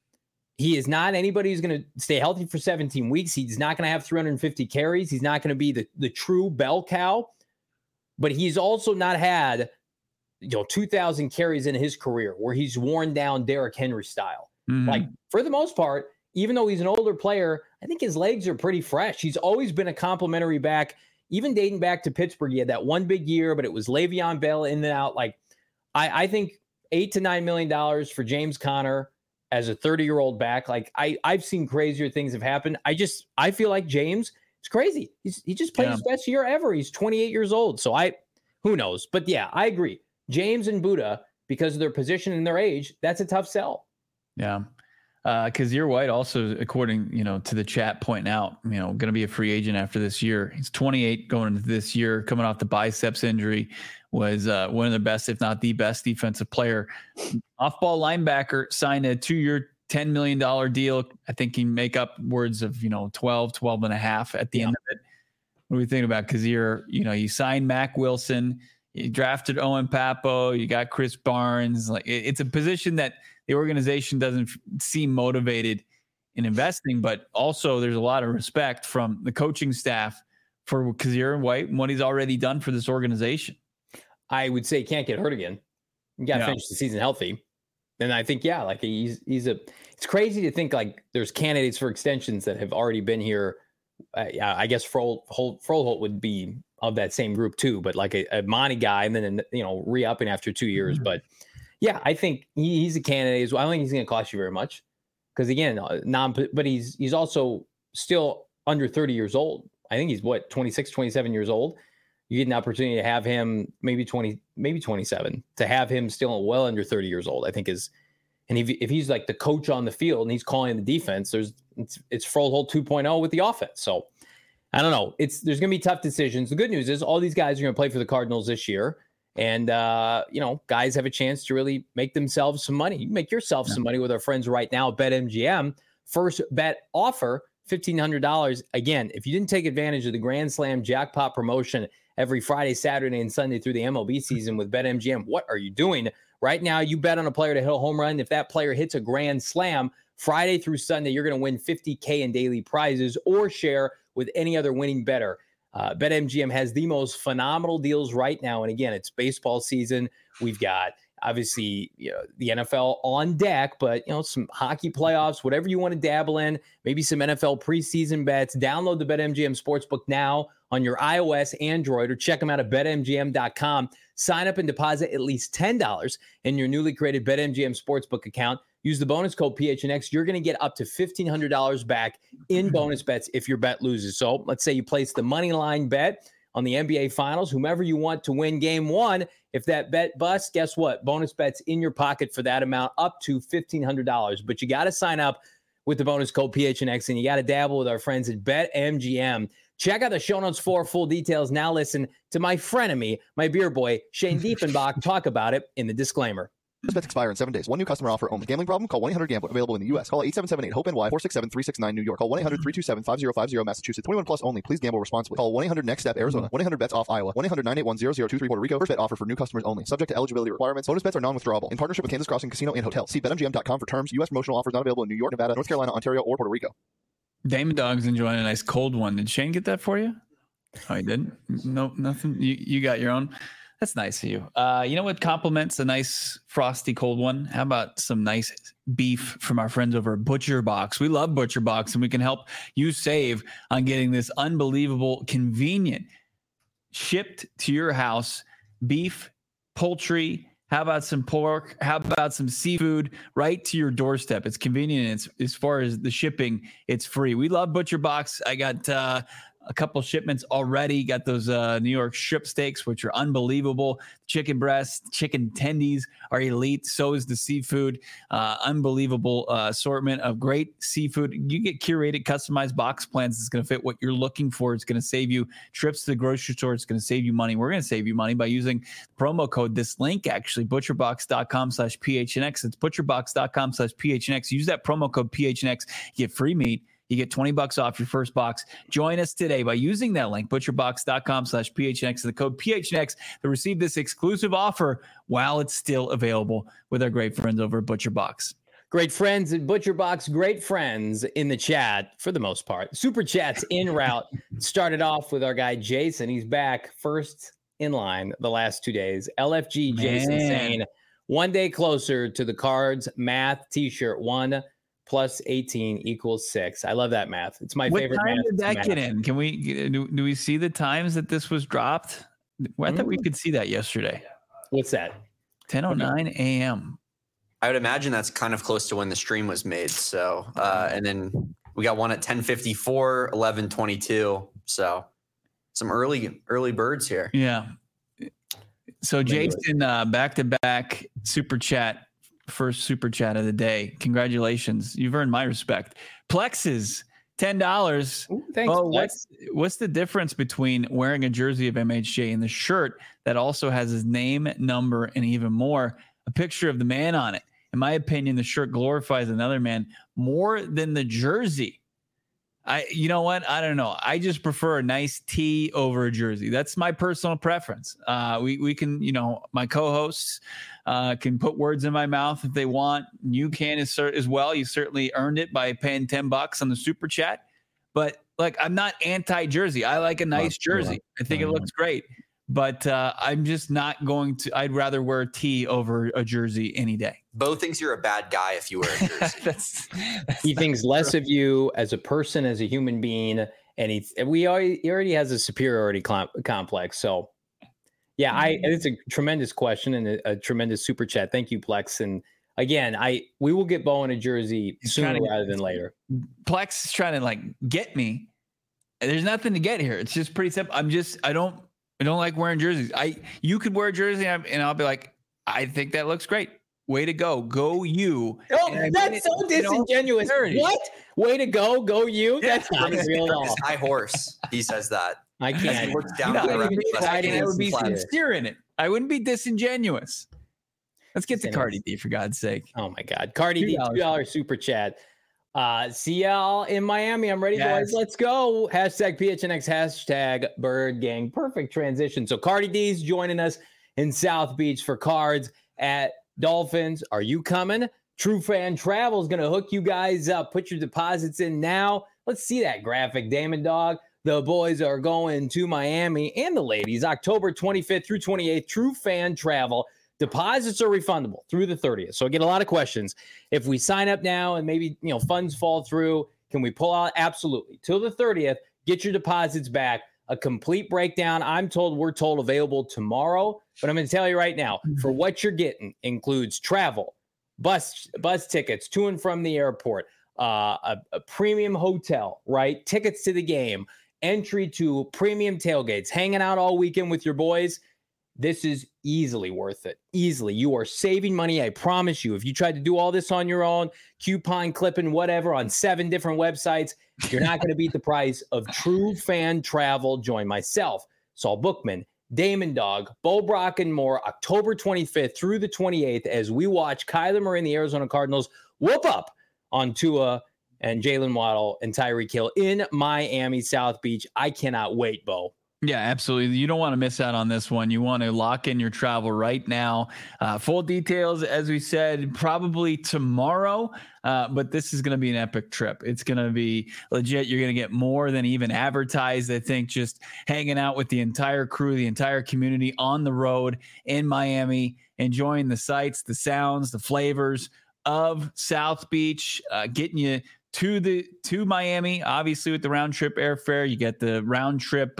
He is not anybody who's going to stay healthy for 17 weeks. He's not going to have 350 carries. He's not going to be the true bell cow, but he's also not had 2,000 carries in his career where he's worn down Derrick Henry style. Mm-hmm. Like, for the most part, even though he's an older player, I think his legs are pretty fresh. He's always been a complimentary back, even dating back to Pittsburgh. He had that one big year, but it was Le'Veon Bell in and out. Like, I think $8 to $9 million for James Conner as a 30-year-old back. Like, I've seen crazier things have happened. I feel like James, it's crazy. He just played his best year ever. He's 28 years old. So who knows? But yeah, I agree. James and Buddha, because of their position and their age, that's a tough sell. Yeah. Kazir White also, according, to the chat, pointing out, going to be a free agent after this year. He's 28 going into this year, coming off the biceps injury, was one of the best, if not the best defensive player. Off-ball linebacker, signed a 2-year, $10 million deal. I think he make upwards of, 12 and a half at the end of it. What do we think about Kazir? You signed Mac Wilson, you drafted Owen Papo, you got Chris Barnes. Like, it's a position that the organization doesn't seem motivated in investing, but also there's a lot of respect from the coaching staff for Kazir White and what he's already done for this organization. I would say he can't get hurt again. You got to finish the season healthy. And I think, it's crazy to think like there's candidates for extensions that have already been here. I guess Froholt would be of that same group too, but like a Monty guy and then, re-upping after 2 years. Mm-hmm. But yeah, I think he's a candidate as well. I don't think he's going to cost you very much because again, but he's also still under 30 years old. I think he's 26, 27 years old. You get an opportunity to have him maybe 27 to have him still well under 30 years old, I think and if he's like the coach on the field and he's calling the defense, it's Froholt 2.0 with the offense. So I don't know. There's going to be tough decisions. The good news is all these guys are going to play for the Cardinals this year. And, guys have a chance to really make themselves some money. You can make yourself some money with our friends right now at BetMGM. First bet offer, $1,500. Again, if you didn't take advantage of the Grand Slam jackpot promotion every Friday, Saturday, and Sunday through the MLB season with BetMGM, what are you doing? Right now, you bet on a player to hit a home run. If that player hits a Grand Slam, Friday through Sunday, you're going to win $50K in daily prizes or share with any other winning bettor. BetMGM has the most phenomenal deals right now. And again, it's baseball season. We've got obviously the NFL on deck, but some hockey playoffs, whatever you want to dabble in, maybe some NFL preseason bets. Download the BetMGM Sportsbook now on your iOS, Android, or check them out at betmgm.com. Sign up and deposit at least $10 in your newly created BetMGM Sportsbook account. Use the bonus code PHNX. You're going to get up to $1,500 back in bonus bets if your bet loses. So let's say you place the money line bet on the NBA Finals, whomever you want to win game one. If that bet busts, guess what? Bonus bets in your pocket for that amount up to $1,500. But you got to sign up with the bonus code PHNX, and you got to dabble with our friends at BetMGM. Check out the show notes for full details. Now listen to my frenemy, my beer boy, Shane Diefenbach, talk about it in the disclaimer. This bets expire in 7 days. One new customer offer only. Gambling problem? Call 1-800-GAMBLER. Available in the U.S. Call 877-8-HOPE-NY 467-369 New York. Call 1-800-327-5050 Massachusetts. 21 plus only. Please gamble responsibly. Call 1-800-NEXT-STEP Arizona. 1-800-BETS-OFF Iowa. 1-800-981-0023 Puerto Rico. First bet offer for new customers only. Subject to eligibility requirements. Bonus bets are non-withdrawable. In partnership with Kansas Crossing Casino and Hotel. See BetMGM.com for terms. U.S. promotional offers not available in New York, Nevada, North Carolina, Ontario, or Puerto Rico. Damon Dog's enjoying a nice cold one. Did Shane get that for you? Oh, he didn't? Nope, nothing. You got your own. That's nice of you. You know what complements a nice frosty cold one? How about some nice beef from our friends over at Butcher Box? We love Butcher Box, and we can help you save on getting this unbelievable, convenient, shipped to your house beef, poultry. How about some pork? How about some seafood right to your doorstep? It's convenient. It's, as far as the shipping, it's free. We love Butcher Box. I got a couple shipments already. Got those New York strip steaks, which are unbelievable. Chicken breasts, chicken tendies are elite. So is the seafood. Unbelievable assortment of great seafood. You get curated, customized box plans. It's going to fit what you're looking for. It's going to save you trips to the grocery store. It's going to save you money. We're going to save you money by using the promo code. This link, actually, butcherbox.com/PHNX. It's butcherbox.com/PHNX. Use that promo code PHNX. You get free meat. You get $20 off your first box. Join us today by using that link, butcherbox.com/PHNX, the code PHNX, to receive this exclusive offer while it's still available with our great friends over at ButcherBox. Great friends at ButcherBox, great friends in the chat for the most part. Super chats en route. Started off with our guy Jason. He's back first in line the last 2 days. LFG Jason saying 1 day closer to the Cards math t-shirt. 1 + 18 = 6. I love that math. It's my favorite math. What time did that get in? Can we do we see the times that this was dropped? I thought we could see that yesterday. What's that? 10:09 a.m. I would imagine that's kind of close to when the stream was made. So, and then we got one at 10:54, 11:22. So some early birds here. Yeah. So Jason, back-to-back super chat, first super chat of the day. Congratulations. You've earned my respect. Plexes, $10. Ooh, thanks, what's the difference between wearing a jersey of MHJ and the shirt that also has his name, number, and even more, a picture of the man on it? In my opinion, the shirt glorifies another man more than the jersey. You know what? I don't know. I just prefer a nice tee over a jersey. That's my personal preference. We can, my co-hosts can put words in my mouth if they want. You can as well. You certainly earned it by paying $10 on the super chat. But I'm not anti-jersey. I like a nice jersey. I think it looks great. But I'm just not going to. I'd rather wear a tee over a jersey any day. Bo thinks you're a bad guy if you wear a jersey. He thinks less of you as a person, as a human being, and he already has a superiority complex. So, yeah, it's a tremendous question and a tremendous super chat. Thank you, Plex. And again, we will get Bo in a jersey sooner rather than later. Plex is trying to get me. There's nothing to get here. It's just pretty simple. I don't like wearing jerseys. You could wear a jersey and I'll be like, I think that looks great. Way to go. Go you. Oh, that's so disingenuous. What? Way to go. Go you. That's not real at all. High horse. He says that. I can't. He looks down I would be sincere in it. I wouldn't be disingenuous. Let's get to Cardi D, for God's sake. Oh my God. Cardi D, $2 super chat. See y'all in Miami. I'm ready, boys. Let's go. Hashtag PHNX, hashtag Bird Gang. Perfect transition. So Cardi D's joining us in South Beach for Cards at Dolphins. Are you coming? True Fan Travel is going to hook you guys up. Put your deposits in now. Let's see that graphic, Damon Dog. The boys are going to Miami, and the ladies, October 25th through 28th. True Fan Travel. Deposits are refundable through the 30th. So I get a lot of questions. If we sign up now and maybe funds fall through, can we pull out? Absolutely. Till the 30th, get your deposits back. A complete breakdown, we're told available tomorrow. But I'm going to tell you right now, for what you're getting includes travel, bus tickets to and from the airport, a premium hotel, right? Tickets to the game, entry to premium tailgates, hanging out all weekend with your boys. This is easily worth it. Easily. You are saving money. I promise you. If you tried to do all this on your own, coupon clipping, whatever, on 7 different websites, you're not going to beat the price of True Fan Travel. Join myself, Saul Bookman, Damon Dog, Bo Brock, and more October 25th through the 28th as we watch Kyler Murray and the Arizona Cardinals whoop up on Tua and Jalen Waddle and Tyreek Hill in Miami, South Beach. I cannot wait, Bo. Yeah, absolutely. You don't want to miss out on this one. You want to lock in your travel right now. Full details, as we said, probably tomorrow. But this is going to be an epic trip. It's going to be legit. You're going to get more than even advertised. I think just hanging out with the entire crew, the entire community on the road in Miami, enjoying the sights, the sounds, the flavors of South Beach, getting you to Miami, obviously with the round trip airfare. You get the round trip,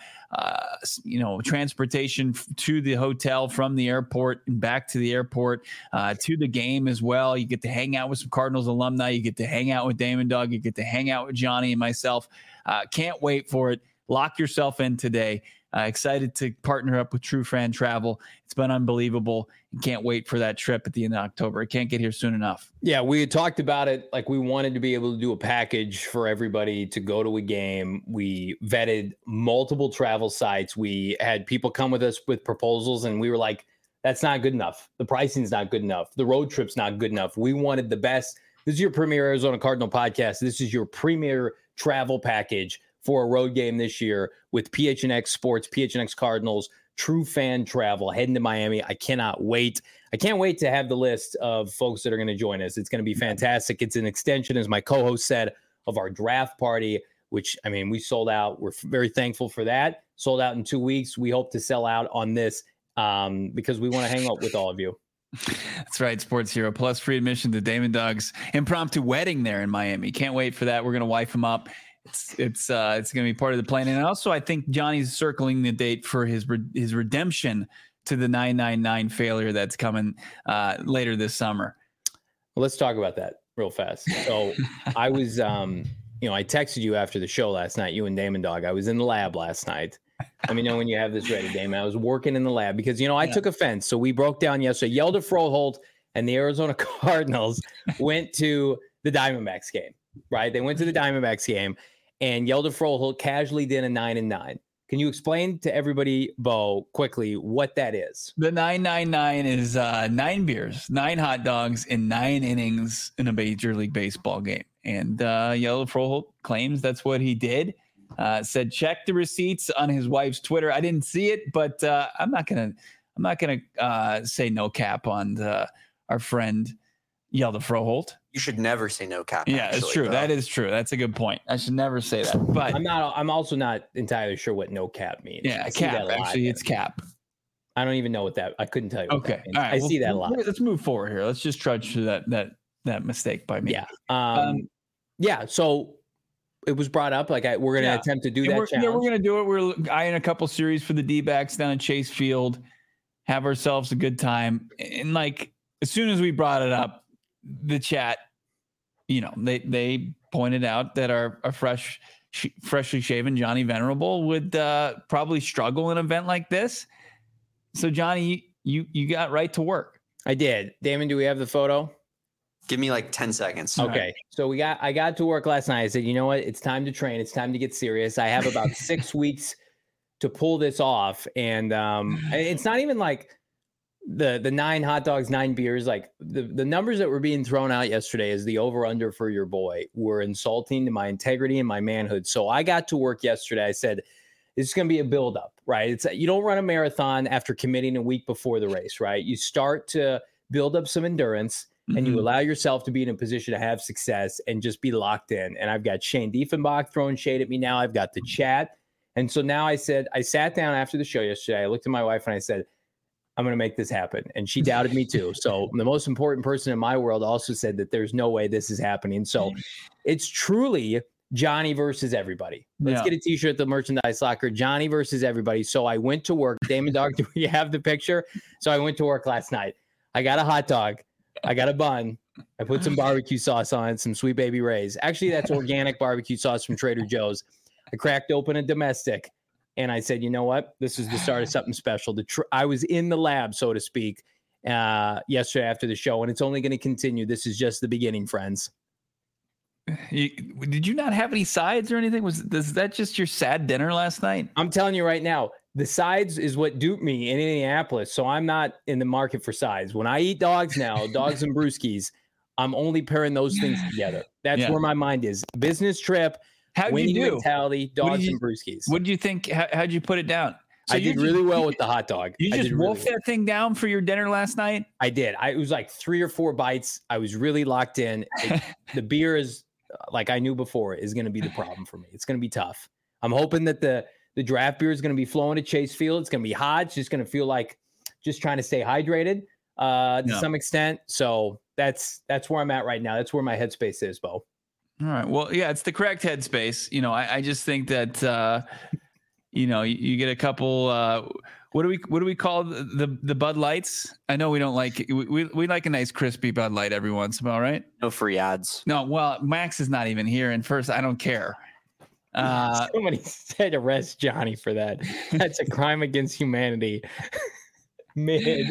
transportation to the hotel from the airport and back to the airport, to the game as well. You get to hang out with some Cardinals alumni. You get to hang out with Damon Dog. You get to hang out with Johnny and myself. Can't wait for it. Lock yourself in today. Excited to partner up with True Fan Travel. It's been unbelievable. Can't wait for that trip at the end of October. It can't get here soon enough. Yeah, we had talked about it. We wanted to be able to do a package for everybody to go to a game. We vetted multiple travel sites. We had people come with us with proposals, and we were like, that's not good enough. The pricing's not good enough. The road trip's not good enough. We wanted the best This is your premier Arizona Cardinal podcast. This is your premier travel package for a road game this year with PHNX Sports, PHNX Cardinals, true fan travel heading to Miami. I cannot wait. I can't wait to have the list of folks that are going to join us. It's going to be fantastic. It's an extension, as my co-host said, of our draft party, which, I mean, we sold out. We're very thankful for that. Sold out in 2 weeks. We hope to sell out on this because we want to hang out with all of you. That's right. Sports Hero plus free admission to Damon Doug's impromptu wedding there in Miami. Can't wait for that. We're going to wife him up. It's going to be part of the plan. And also, I think Johnny's circling the date for his redemption to the 999 failure that's coming later this summer. Well, let's talk about that real fast. So I was, I texted you after the show last night, you and Damon Dog. I was in the lab last night. Let me know when you have this ready, Damon. I was working in the lab because, I took offense. So we broke down yesterday. Yelder Froholt and the Arizona Cardinals went to the Diamondbacks game, right? They went to the Diamondbacks game, and Yelder Froholt casually did a 9-9. Can you explain to everybody, Bo, quickly what that is? The 999 is 9 beers, 9 hot dogs, and 9 innings in a Major League Baseball game. And Yelder Froholt claims that's what he did. Said check the receipts on his wife's Twitter. I didn't see it, but I'm not gonna say no cap on our friend Yelder Froholt. You should never say no cap. Yeah, it's true. Bro. That is true. That's a good point. I should never say that. But I'm also not entirely sure what no cap means. Yeah, cap. Actually, it's cap. I don't even know what that. I couldn't tell you. Okay, all right. I see that a lot. Let's move forward here. Let's just trudge through that mistake by me. Yeah. So it was brought up. Like we're going to attempt to do that challenge. Yeah, we're going to do it. We're eyeing a couple series for the D-backs down at Chase Field. Have ourselves a good time. And as soon as we brought it up, the chat, they pointed out that our freshly shaven Johnny Venerable would probably struggle in an event like this. So Johnny, you got right to work. I did. Damon, do we have the photo? Give me 10 seconds. Okay. Right. So I got to work last night. I said, you know what? It's time to train. It's time to get serious. I have about 6 weeks to pull this off. And it's not even the 9 hot dogs, 9 beers. The numbers that were being thrown out yesterday as the over under for your boy were insulting to my integrity and my manhood. So I got to work yesterday. I said, this is going to be a buildup, right? You don't run a marathon after committing a week before the race, right? You start to build up some endurance. And you allow yourself to be in a position to have success and just be locked in. And I've got Shane Diefenbach throwing shade at me now. I've got the chat. And so now I sat down after the show yesterday. I looked at my wife and I said, I'm going to make this happen. And she doubted me too. So the most important person in my world also said that there's no way this is happening. So it's truly Johnny versus everybody. Let's get a t-shirt at the merchandise locker. Johnny versus everybody. So I went to work. Damon Dog, do we have the picture? So I went to work last night. I got a hot dog. I got a bun. I put some barbecue sauce on it, some Sweet Baby Ray's. Actually, that's organic barbecue sauce from Trader Joe's. I cracked open a domestic, and I said, you know what? This is the start of something special. I was in the lab, so to speak, yesterday after the show, and it's only going to continue. This is just the beginning, friends. Did you not have any sides or anything? Was that just your sad dinner last night? I'm telling you right now, the sides is what duped me in Indianapolis. So I'm not in the market for sides. When I eat dogs now, dogs and brewskis, I'm only pairing those things together. That's where my mind is. Business trip, winning mentality, dogs and brewskis. What did you think? How'd you put it down? So I did really well with the hot dog. You just wolfed that thing down for your dinner last night? I did. It was 3 or 4 bites. I was really locked in. The beer is, like I knew before, is going to be the problem for me. It's going to be tough. I'm hoping that the draft beer is going to be flowing to Chase Field. It's going to be hot. It's just going to feel like just trying to stay hydrated to some extent. So that's where I'm at right now. That's where my headspace is, Bo. All right. Well, yeah, it's the correct headspace. I just think that, you get a couple, what do we call the Bud Lights? I know we don't like it. We like a nice crispy Bud Light every once in a while, right? No free ads. No. Well, Max is not even here. And first, I don't care. Somebody said arrest Johnny for that. That's a crime against humanity. Thank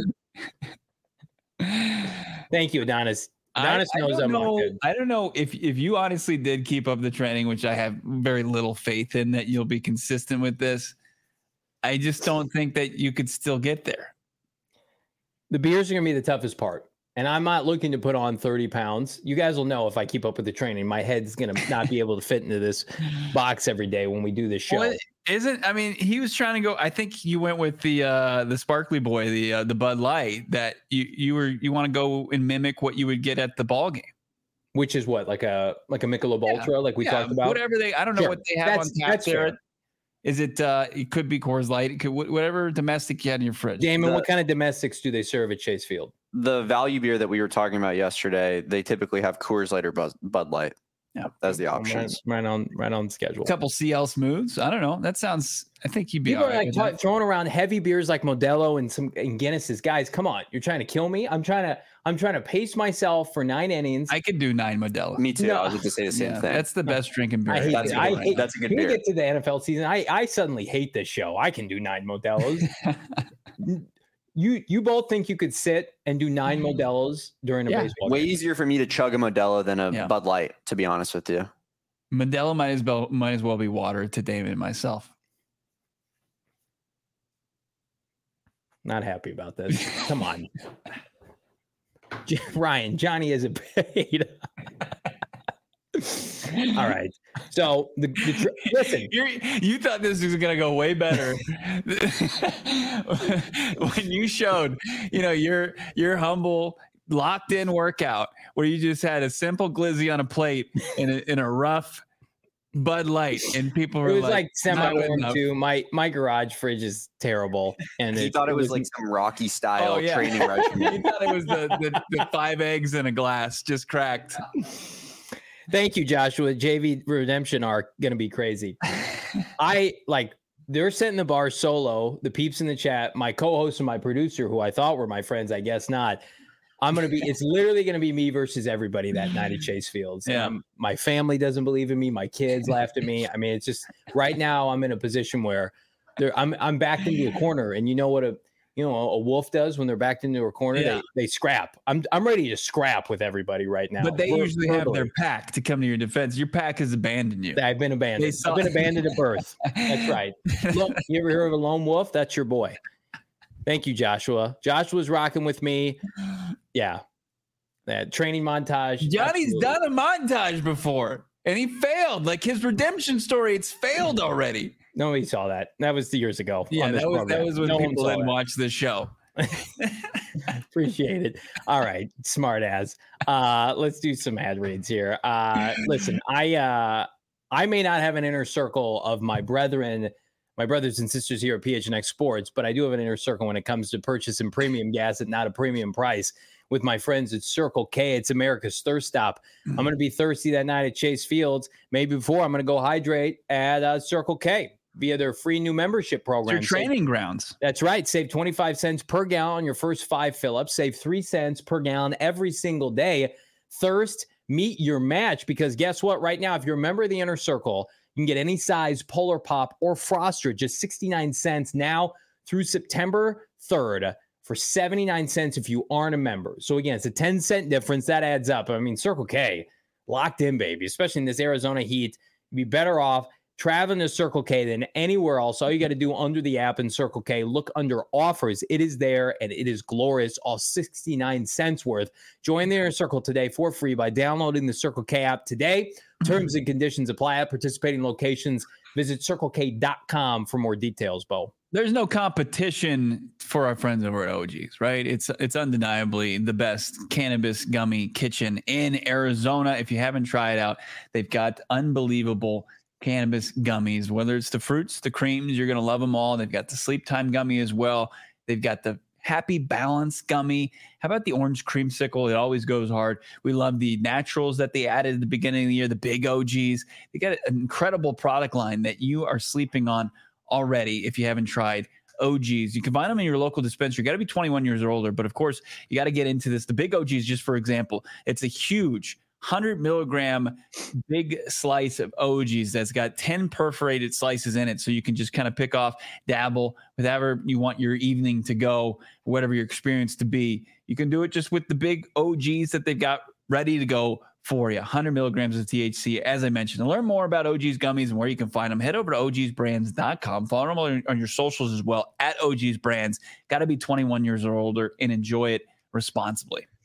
you, Adonis. Adonis knows I'm not good. I don't know if you honestly did keep up the training, which I have very little faith in that you'll be consistent with this. I just don't think that you could still get there. The beers are going to be the toughest part. and I'm not looking to put on 30 pounds. You guys will know if I keep up with the training, my head's going to not be able to fit into this box every day when we do this show. Well, I mean, he was trying to go. I think you went with the Sparkly Boy, the Bud Light, that you want to go and mimic what you would get at the ball game. Which is what, like a Michelob Ultra, like we talked about? Whatever I don't know what they have on tap there. Fair. Is it? It could be Coors Light. It could whatever domestic you had in your fridge. Damon, what kind of domestics do they serve at Chase Field? The value beer that we were talking about yesterday, they typically have Coors Light or Bud Light. Yeah, that's the options. Right on schedule. A couple CL Smooths. I don't know. That sounds. I think you'd be. People all right are like throwing around heavy beers like Modelo and Guinnesses. Guys, come on! You're trying to kill me. I'm trying to pace myself for 9 innings. I could do 9 Modelo. Me too. No. I was going to say the same thing. That's the best drinking beer. That's a good beer. When we get to the NFL season, I suddenly hate this show. I can do 9 Modelos. You both think you could sit and do 9 Modelos during a baseball game? Way easier for me to chug a Modelo than a Bud Light, to be honest with you. Modelo might as well be water to David and myself. Not happy about this. Come on. Ryan, Johnny isn't paid. All right. So listen, you thought this was going to go way better when you showed, your humble locked in workout where you just had a simple glizzy on a plate in a rough Bud Light, and people were like semi-warm too. My garage fridge is terrible, and he thought it was like some Rocky style training regimen. He thought it was the 5 eggs in a glass just cracked. Thank you, Joshua. JV Redemption are going to be crazy. They're setting the bar solo. The peeps in the chat, my co-host and my producer, who I thought were my friends, I guess not. It's literally going to be me versus everybody that night at Chase Fields. Yeah. My family doesn't believe in me. My kids laughed at me. I mean, it's just right now I'm in a position where I'm backed into a corner, and you know what a wolf does when they're backed into a corner? They scrap. I'm ready to scrap with everybody right now. But they usually have their pack to come to your defense. Your pack has abandoned you. I've been abandoned. I've been abandoned at birth. That's right. Look, you ever heard of a lone wolf? That's your boy. Thank you, Joshua. Joshua's rocking with me. Yeah. That training montage. Johnny's done a montage before, and he failed. Like his redemption story, it's failed already. Nobody saw that. That was years ago. Yeah, that was when people didn't watch this show. Appreciate it. All right, smart ass. Let's do some ad reads here. Listen, I may not have an inner circle of my brothers and sisters here at PHNX Sports, but I do have an inner circle when it comes to purchasing premium gas at not a premium price with my friends at Circle K. It's America's thirst stop. I'm going to be thirsty that night at Chase Fields. Maybe before I'm going to go hydrate at Circle K via their free new membership program. It's your training grounds. That's right. Save 25 cents per gallon on your first 5 fill-ups. Save 3 cents per gallon every single day. Thirst, meet your match, because guess what? Right now, if you're a member of the Inner Circle, you can get any size Polar Pop or Froster, just 69 cents now through September 3rd for 79 cents if you aren't a member. So again, it's a 10-cent difference. That adds up. I mean, Circle K, locked in, baby, especially in this Arizona heat. You'd be better off traveling to Circle K than anywhere else. All you got to do under the app in Circle K, look under offers. It is there, and it is glorious, all 69 cents worth. Join the Inner Circle today for free by downloading the Circle K app today. Terms and conditions apply at participating locations. Visit CircleK.com for more details, Bo. There's no competition for our friends over at OG's, right? It's undeniably the best cannabis gummy kitchen in Arizona. If you haven't tried it out, they've got unbelievable cannabis gummies, whether it's the fruits, the creams, you're going to love them all. They've got the sleep time gummy as well. They've got the Happy Balance gummy. How about the orange creamsicle? It always goes hard. We love the naturals that they added at the beginning of the year, the big OGs. They got an incredible product line that you are sleeping on already if you haven't tried OGs. You can find them in your local dispensary. You got to be 21 years or older, but of course, you got to get into this. The big OGs, just for example, it's a huge 100 milligram big slice of OGs that's got 10 perforated slices in it. So you can just kind of pick off, dabble, whatever you want your evening to go, whatever your experience to be. You can do it just with the big OGs that they've got ready to go for you. 100 milligrams of THC, as I mentioned. To learn more about OG's gummies and where you can find them, head over to ogsbrands.com. Follow them on your socials as well, at OG's Brands. Got to be 21 years or older and enjoy it responsibly.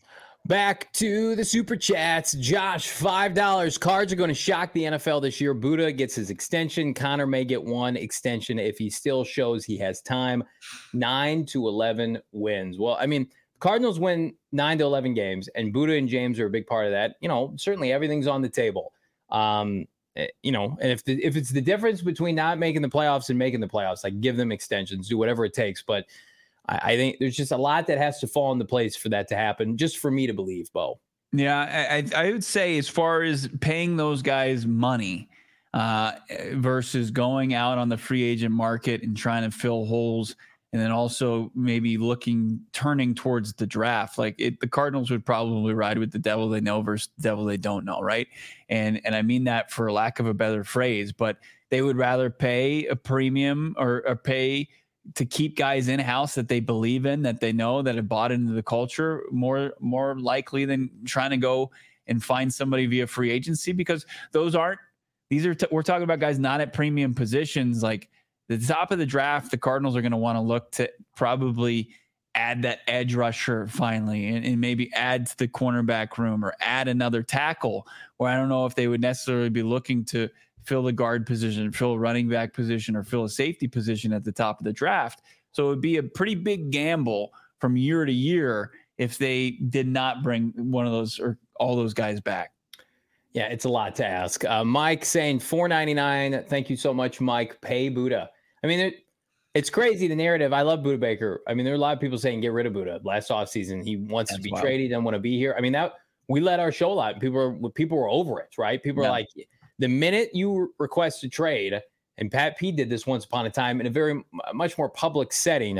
Back to the super chats. Josh, $5. Cards are going to shock the NFL this year. Buddha gets his extension. Connor may get one extension if he still shows he has time. 9 to 11 wins. Well, I mean, Cardinals win 9 to 11 games, and Buddha and James are a big part of that. Certainly everything's on the table. And if it's the difference between not making the playoffs and making the playoffs, like give them extensions, do whatever it takes. But I think there's just a lot that has to fall into place for that to happen, just for me to believe, Bo. Yeah, I would say as far as paying those guys money versus going out on the free agent market and trying to fill holes, and then also maybe turning towards the draft. The Cardinals would probably ride with the devil they know versus the devil they don't know, right? And I mean that for lack of a better phrase, but they would rather pay a premium or pay to keep guys in-house that they believe in, that they know, that have bought into the culture more likely than trying to go and find somebody via free agency, because we're talking about guys not at premium positions. Like the top of the draft, the Cardinals are going to want to look to probably add that edge rusher finally, and maybe add to the cornerback room or add another tackle, where I don't know if they would necessarily be looking to fill the guard position, fill a running back position, or fill a safety position at the top of the draft. So it would be a pretty big gamble from year to year if they did not bring one of those or all those guys back. Yeah, it's a lot to ask. Mike saying $4.99. Thank you so much, Mike. Pay Buddha. I mean, it's crazy, the narrative. I love Buddha Baker. I mean, there are a lot of people saying get rid of Buddha. Last offseason, he wants to be traded. He doesn't want to be here. I mean, that we let our show out. People were over it, right? People are like, the minute you request a trade, and Pat P did this once upon a time in a very much more public setting,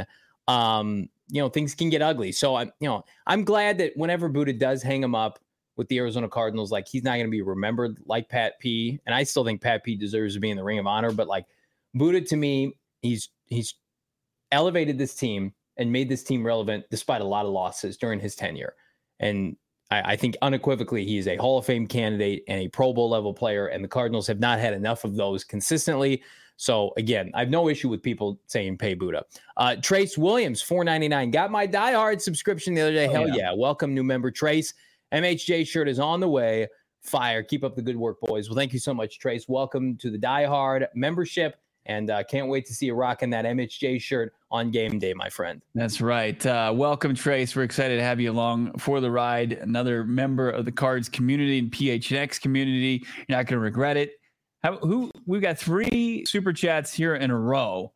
things can get ugly. So I'm glad that whenever Buddha does hang him up with the Arizona Cardinals, like he's not going to be remembered like Pat P. And I still think Pat P deserves to be in the Ring of Honor. But like Buddha, to me, he's elevated this team and made this team relevant despite a lot of losses during his tenure. And I think unequivocally he is a Hall of Fame candidate and a Pro Bowl level player, and the Cardinals have not had enough of those consistently. So again, I have no issue with people saying pay Buddha. Trace Williams, $4.99. Got my Die Hard subscription the other day. Hell yeah. Welcome, new member Trace. MHJ shirt is on the way. Fire. Keep up the good work, boys. Well, thank you so much, Trace. Welcome to the Die Hard membership, and can't wait to see you rocking that MHJ shirt on game day, my friend. That's right. Welcome, Trace. We're excited to have you along for the ride. Another member of the Cards community and PHNX community. You're not going to regret it. We've got 3 super chats here in a row.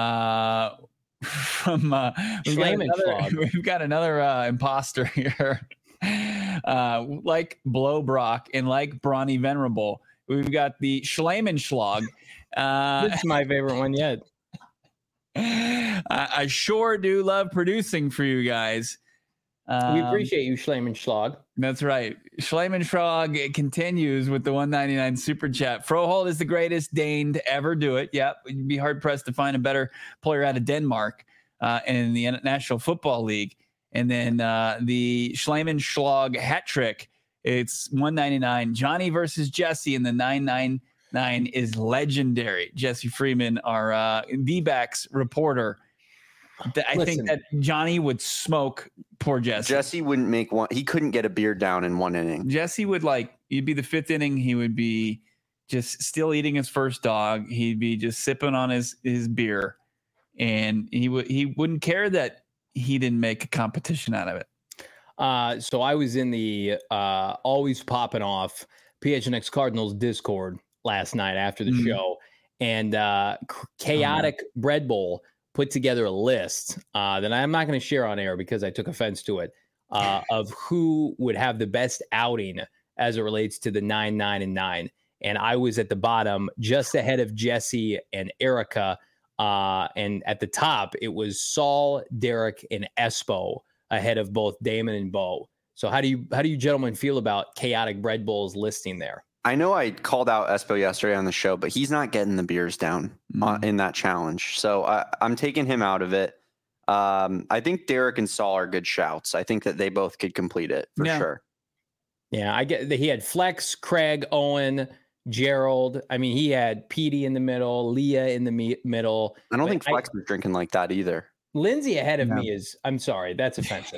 We've got another imposter here. Like Blow Brock and like Brawny Venerable. We've got the Schleimenschlag. This is my favorite one yet. I sure do love producing for you guys. We appreciate you, Schleimenschlag. That's right. Schleimenschlag continues with the $1.99 super chat. Froholt is the greatest Dane to ever do it. Yep. You'd be hard pressed to find a better player out of Denmark in the National Football League. And then the Schleimenschlag hat trick. It's $1.99. Johnny versus Jesse in the 999 is legendary. Jesse Freeman, our D-backs reporter. I think that Johnny would smoke poor Jesse. Jesse wouldn't make one. He couldn't get a beer down in one inning. Jesse would you'd be the 5th inning. He would be just still eating his first dog. He'd be just sipping on his beer, and he wouldn't care that he didn't make a competition out of it. So I was in the always popping off PHNX Cardinals Discord last night after the show, and Chaotic Bread Bowl put together a list that I'm not going to share on air because I took offense to it, of who would have the best outing as it relates to the 9-9-9. And I was at the bottom, just ahead of Jesse and Erica. And at the top, it was Saul, Derek, and Espo ahead of both Damon and Bo. So how do you gentlemen feel about Chaotic Bread Bowl's listing there? I know I called out Espo yesterday on the show, but he's not getting the beers down in that challenge. So I'm taking him out of it. I think Derek and Saul are good shouts. I think that they both could complete it for sure. Yeah, I get that he had Flex, Craig, Owen, Gerald. I mean, he had Petey in the middle, Leah in the middle. I don't think Flex was drinking like that either. Lindsay ahead of me is, I'm sorry, that's offensive.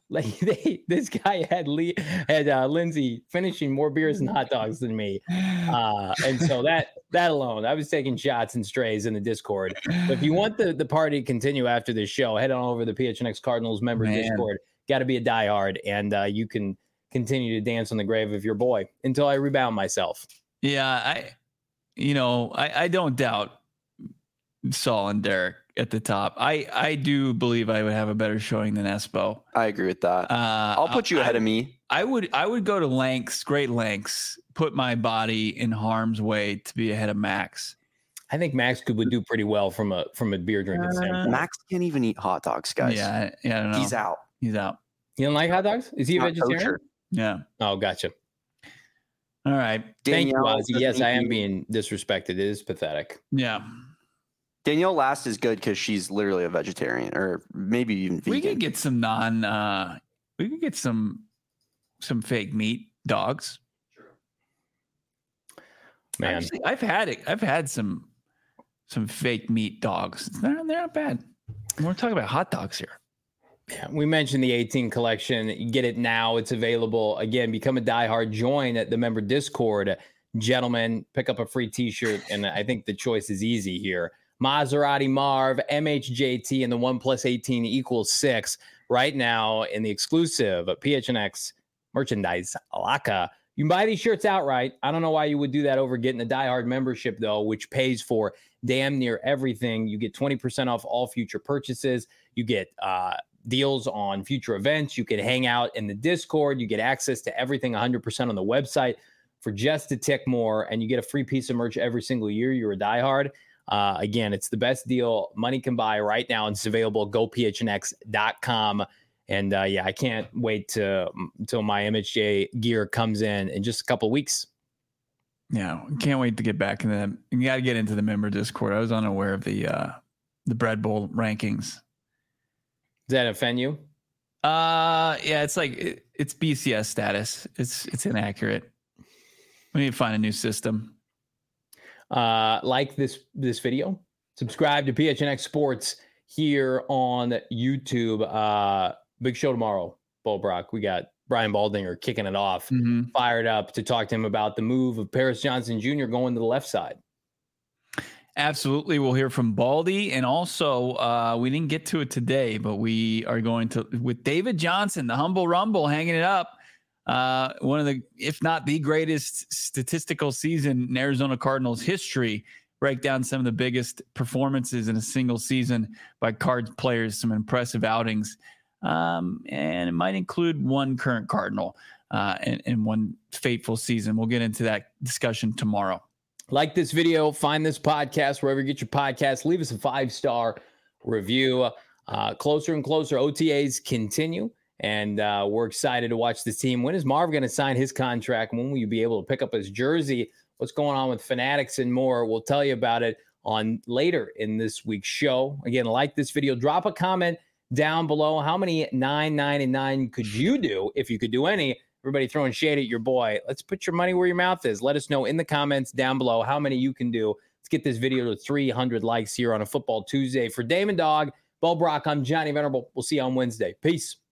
Like this guy had Lindsay finishing more beers and hot dogs than me, and so that alone, I was taking shots and strays in the Discord. But if you want the party to continue after this show, head on over to the PHNX Cardinals member Discord. Got to be a diehard, and you can continue to dance on the grave of your boy until I rebound myself. Yeah, I don't doubt Saul and Derek at the top. I do believe I would have a better showing than Espo. I agree with that. I'll put you ahead of me. I would go to great lengths, put my body in harm's way to be ahead of Max. I think Max would do pretty well from a beer drinking standpoint. Max can't even eat hot dogs, guys. Yeah, I don't know. He's out. You don't like hot dogs? Is he a vegetarian? Kosher. Yeah. Oh, gotcha. All right. Thank you, Ozzy. Yes, I am being disrespected. It is pathetic. Yeah. Danielle last is good because she's literally a vegetarian, or maybe even vegan. We could get some we could get some fake meat dogs. Man, actually, I've had some fake meat dogs. They're not bad. We're talking about hot dogs here. Yeah, we mentioned the 18 collection. You get it now. It's available. Again, become a diehard. Join the member Discord. Gentlemen, pick up a free t-shirt, and I think the choice is easy here. Maserati Marv, MHJT, and the 1+18 = 6 right now in the exclusive PHNX merchandise Alaka. You can buy these shirts outright. I don't know why you would do that over getting the diehard membership, though, which pays for damn near everything. You get 20% off all future purchases. You get deals on future events. You can hang out in the Discord. You get access to everything 100% on the website for just a tick more, and you get a free piece of merch every single year. You're a diehard. Again, it's the best deal money can buy right now. It's available. GoPHNX.com. And I can't wait until my MHJ gear comes in just a couple of weeks. Yeah, can't wait to get back in the. You got to get into the member Discord. I was unaware of the Bread Bowl rankings. Does that offend you? Yeah, it's like it's BCS status. It's inaccurate. We need to find a new system. Like this video, subscribe to PHNX Sports here on YouTube. Big show tomorrow, Bo Brock. We got Brian Baldinger kicking it off, fired up to talk to him about the move of Paris Johnson Jr. going to the left side. Absolutely. We'll hear from Baldy. And also, we didn't get to it today, but we are going to, with David Johnson, the Humble Rumble, hanging it up. One of the, if not the greatest statistical season in Arizona Cardinals history. Break down some of the biggest performances in a single season by Cards players, some impressive outings. And it might include one current Cardinal and one fateful season. We'll get into that discussion tomorrow. Like this video, find this podcast wherever you get your podcast. Leave us a 5-star review. Closer and closer OTAs continue, and we're excited to watch this team. When is Marv going to sign his contract? When will you be able to pick up his jersey? What's going on with Fanatics and more? We'll tell you about it on later in this week's show. Again, like this video, drop a comment down below. How many 9, 9, and 9 could you do if you could do any? Everybody throwing shade at your boy. Let's put your money where your mouth is. Let us know in the comments down below how many you can do. Let's get this video to 300 likes here on a Football Tuesday. For Damon Dog, Bo Brock, I'm Johnny Venerable. We'll see you on Wednesday. Peace.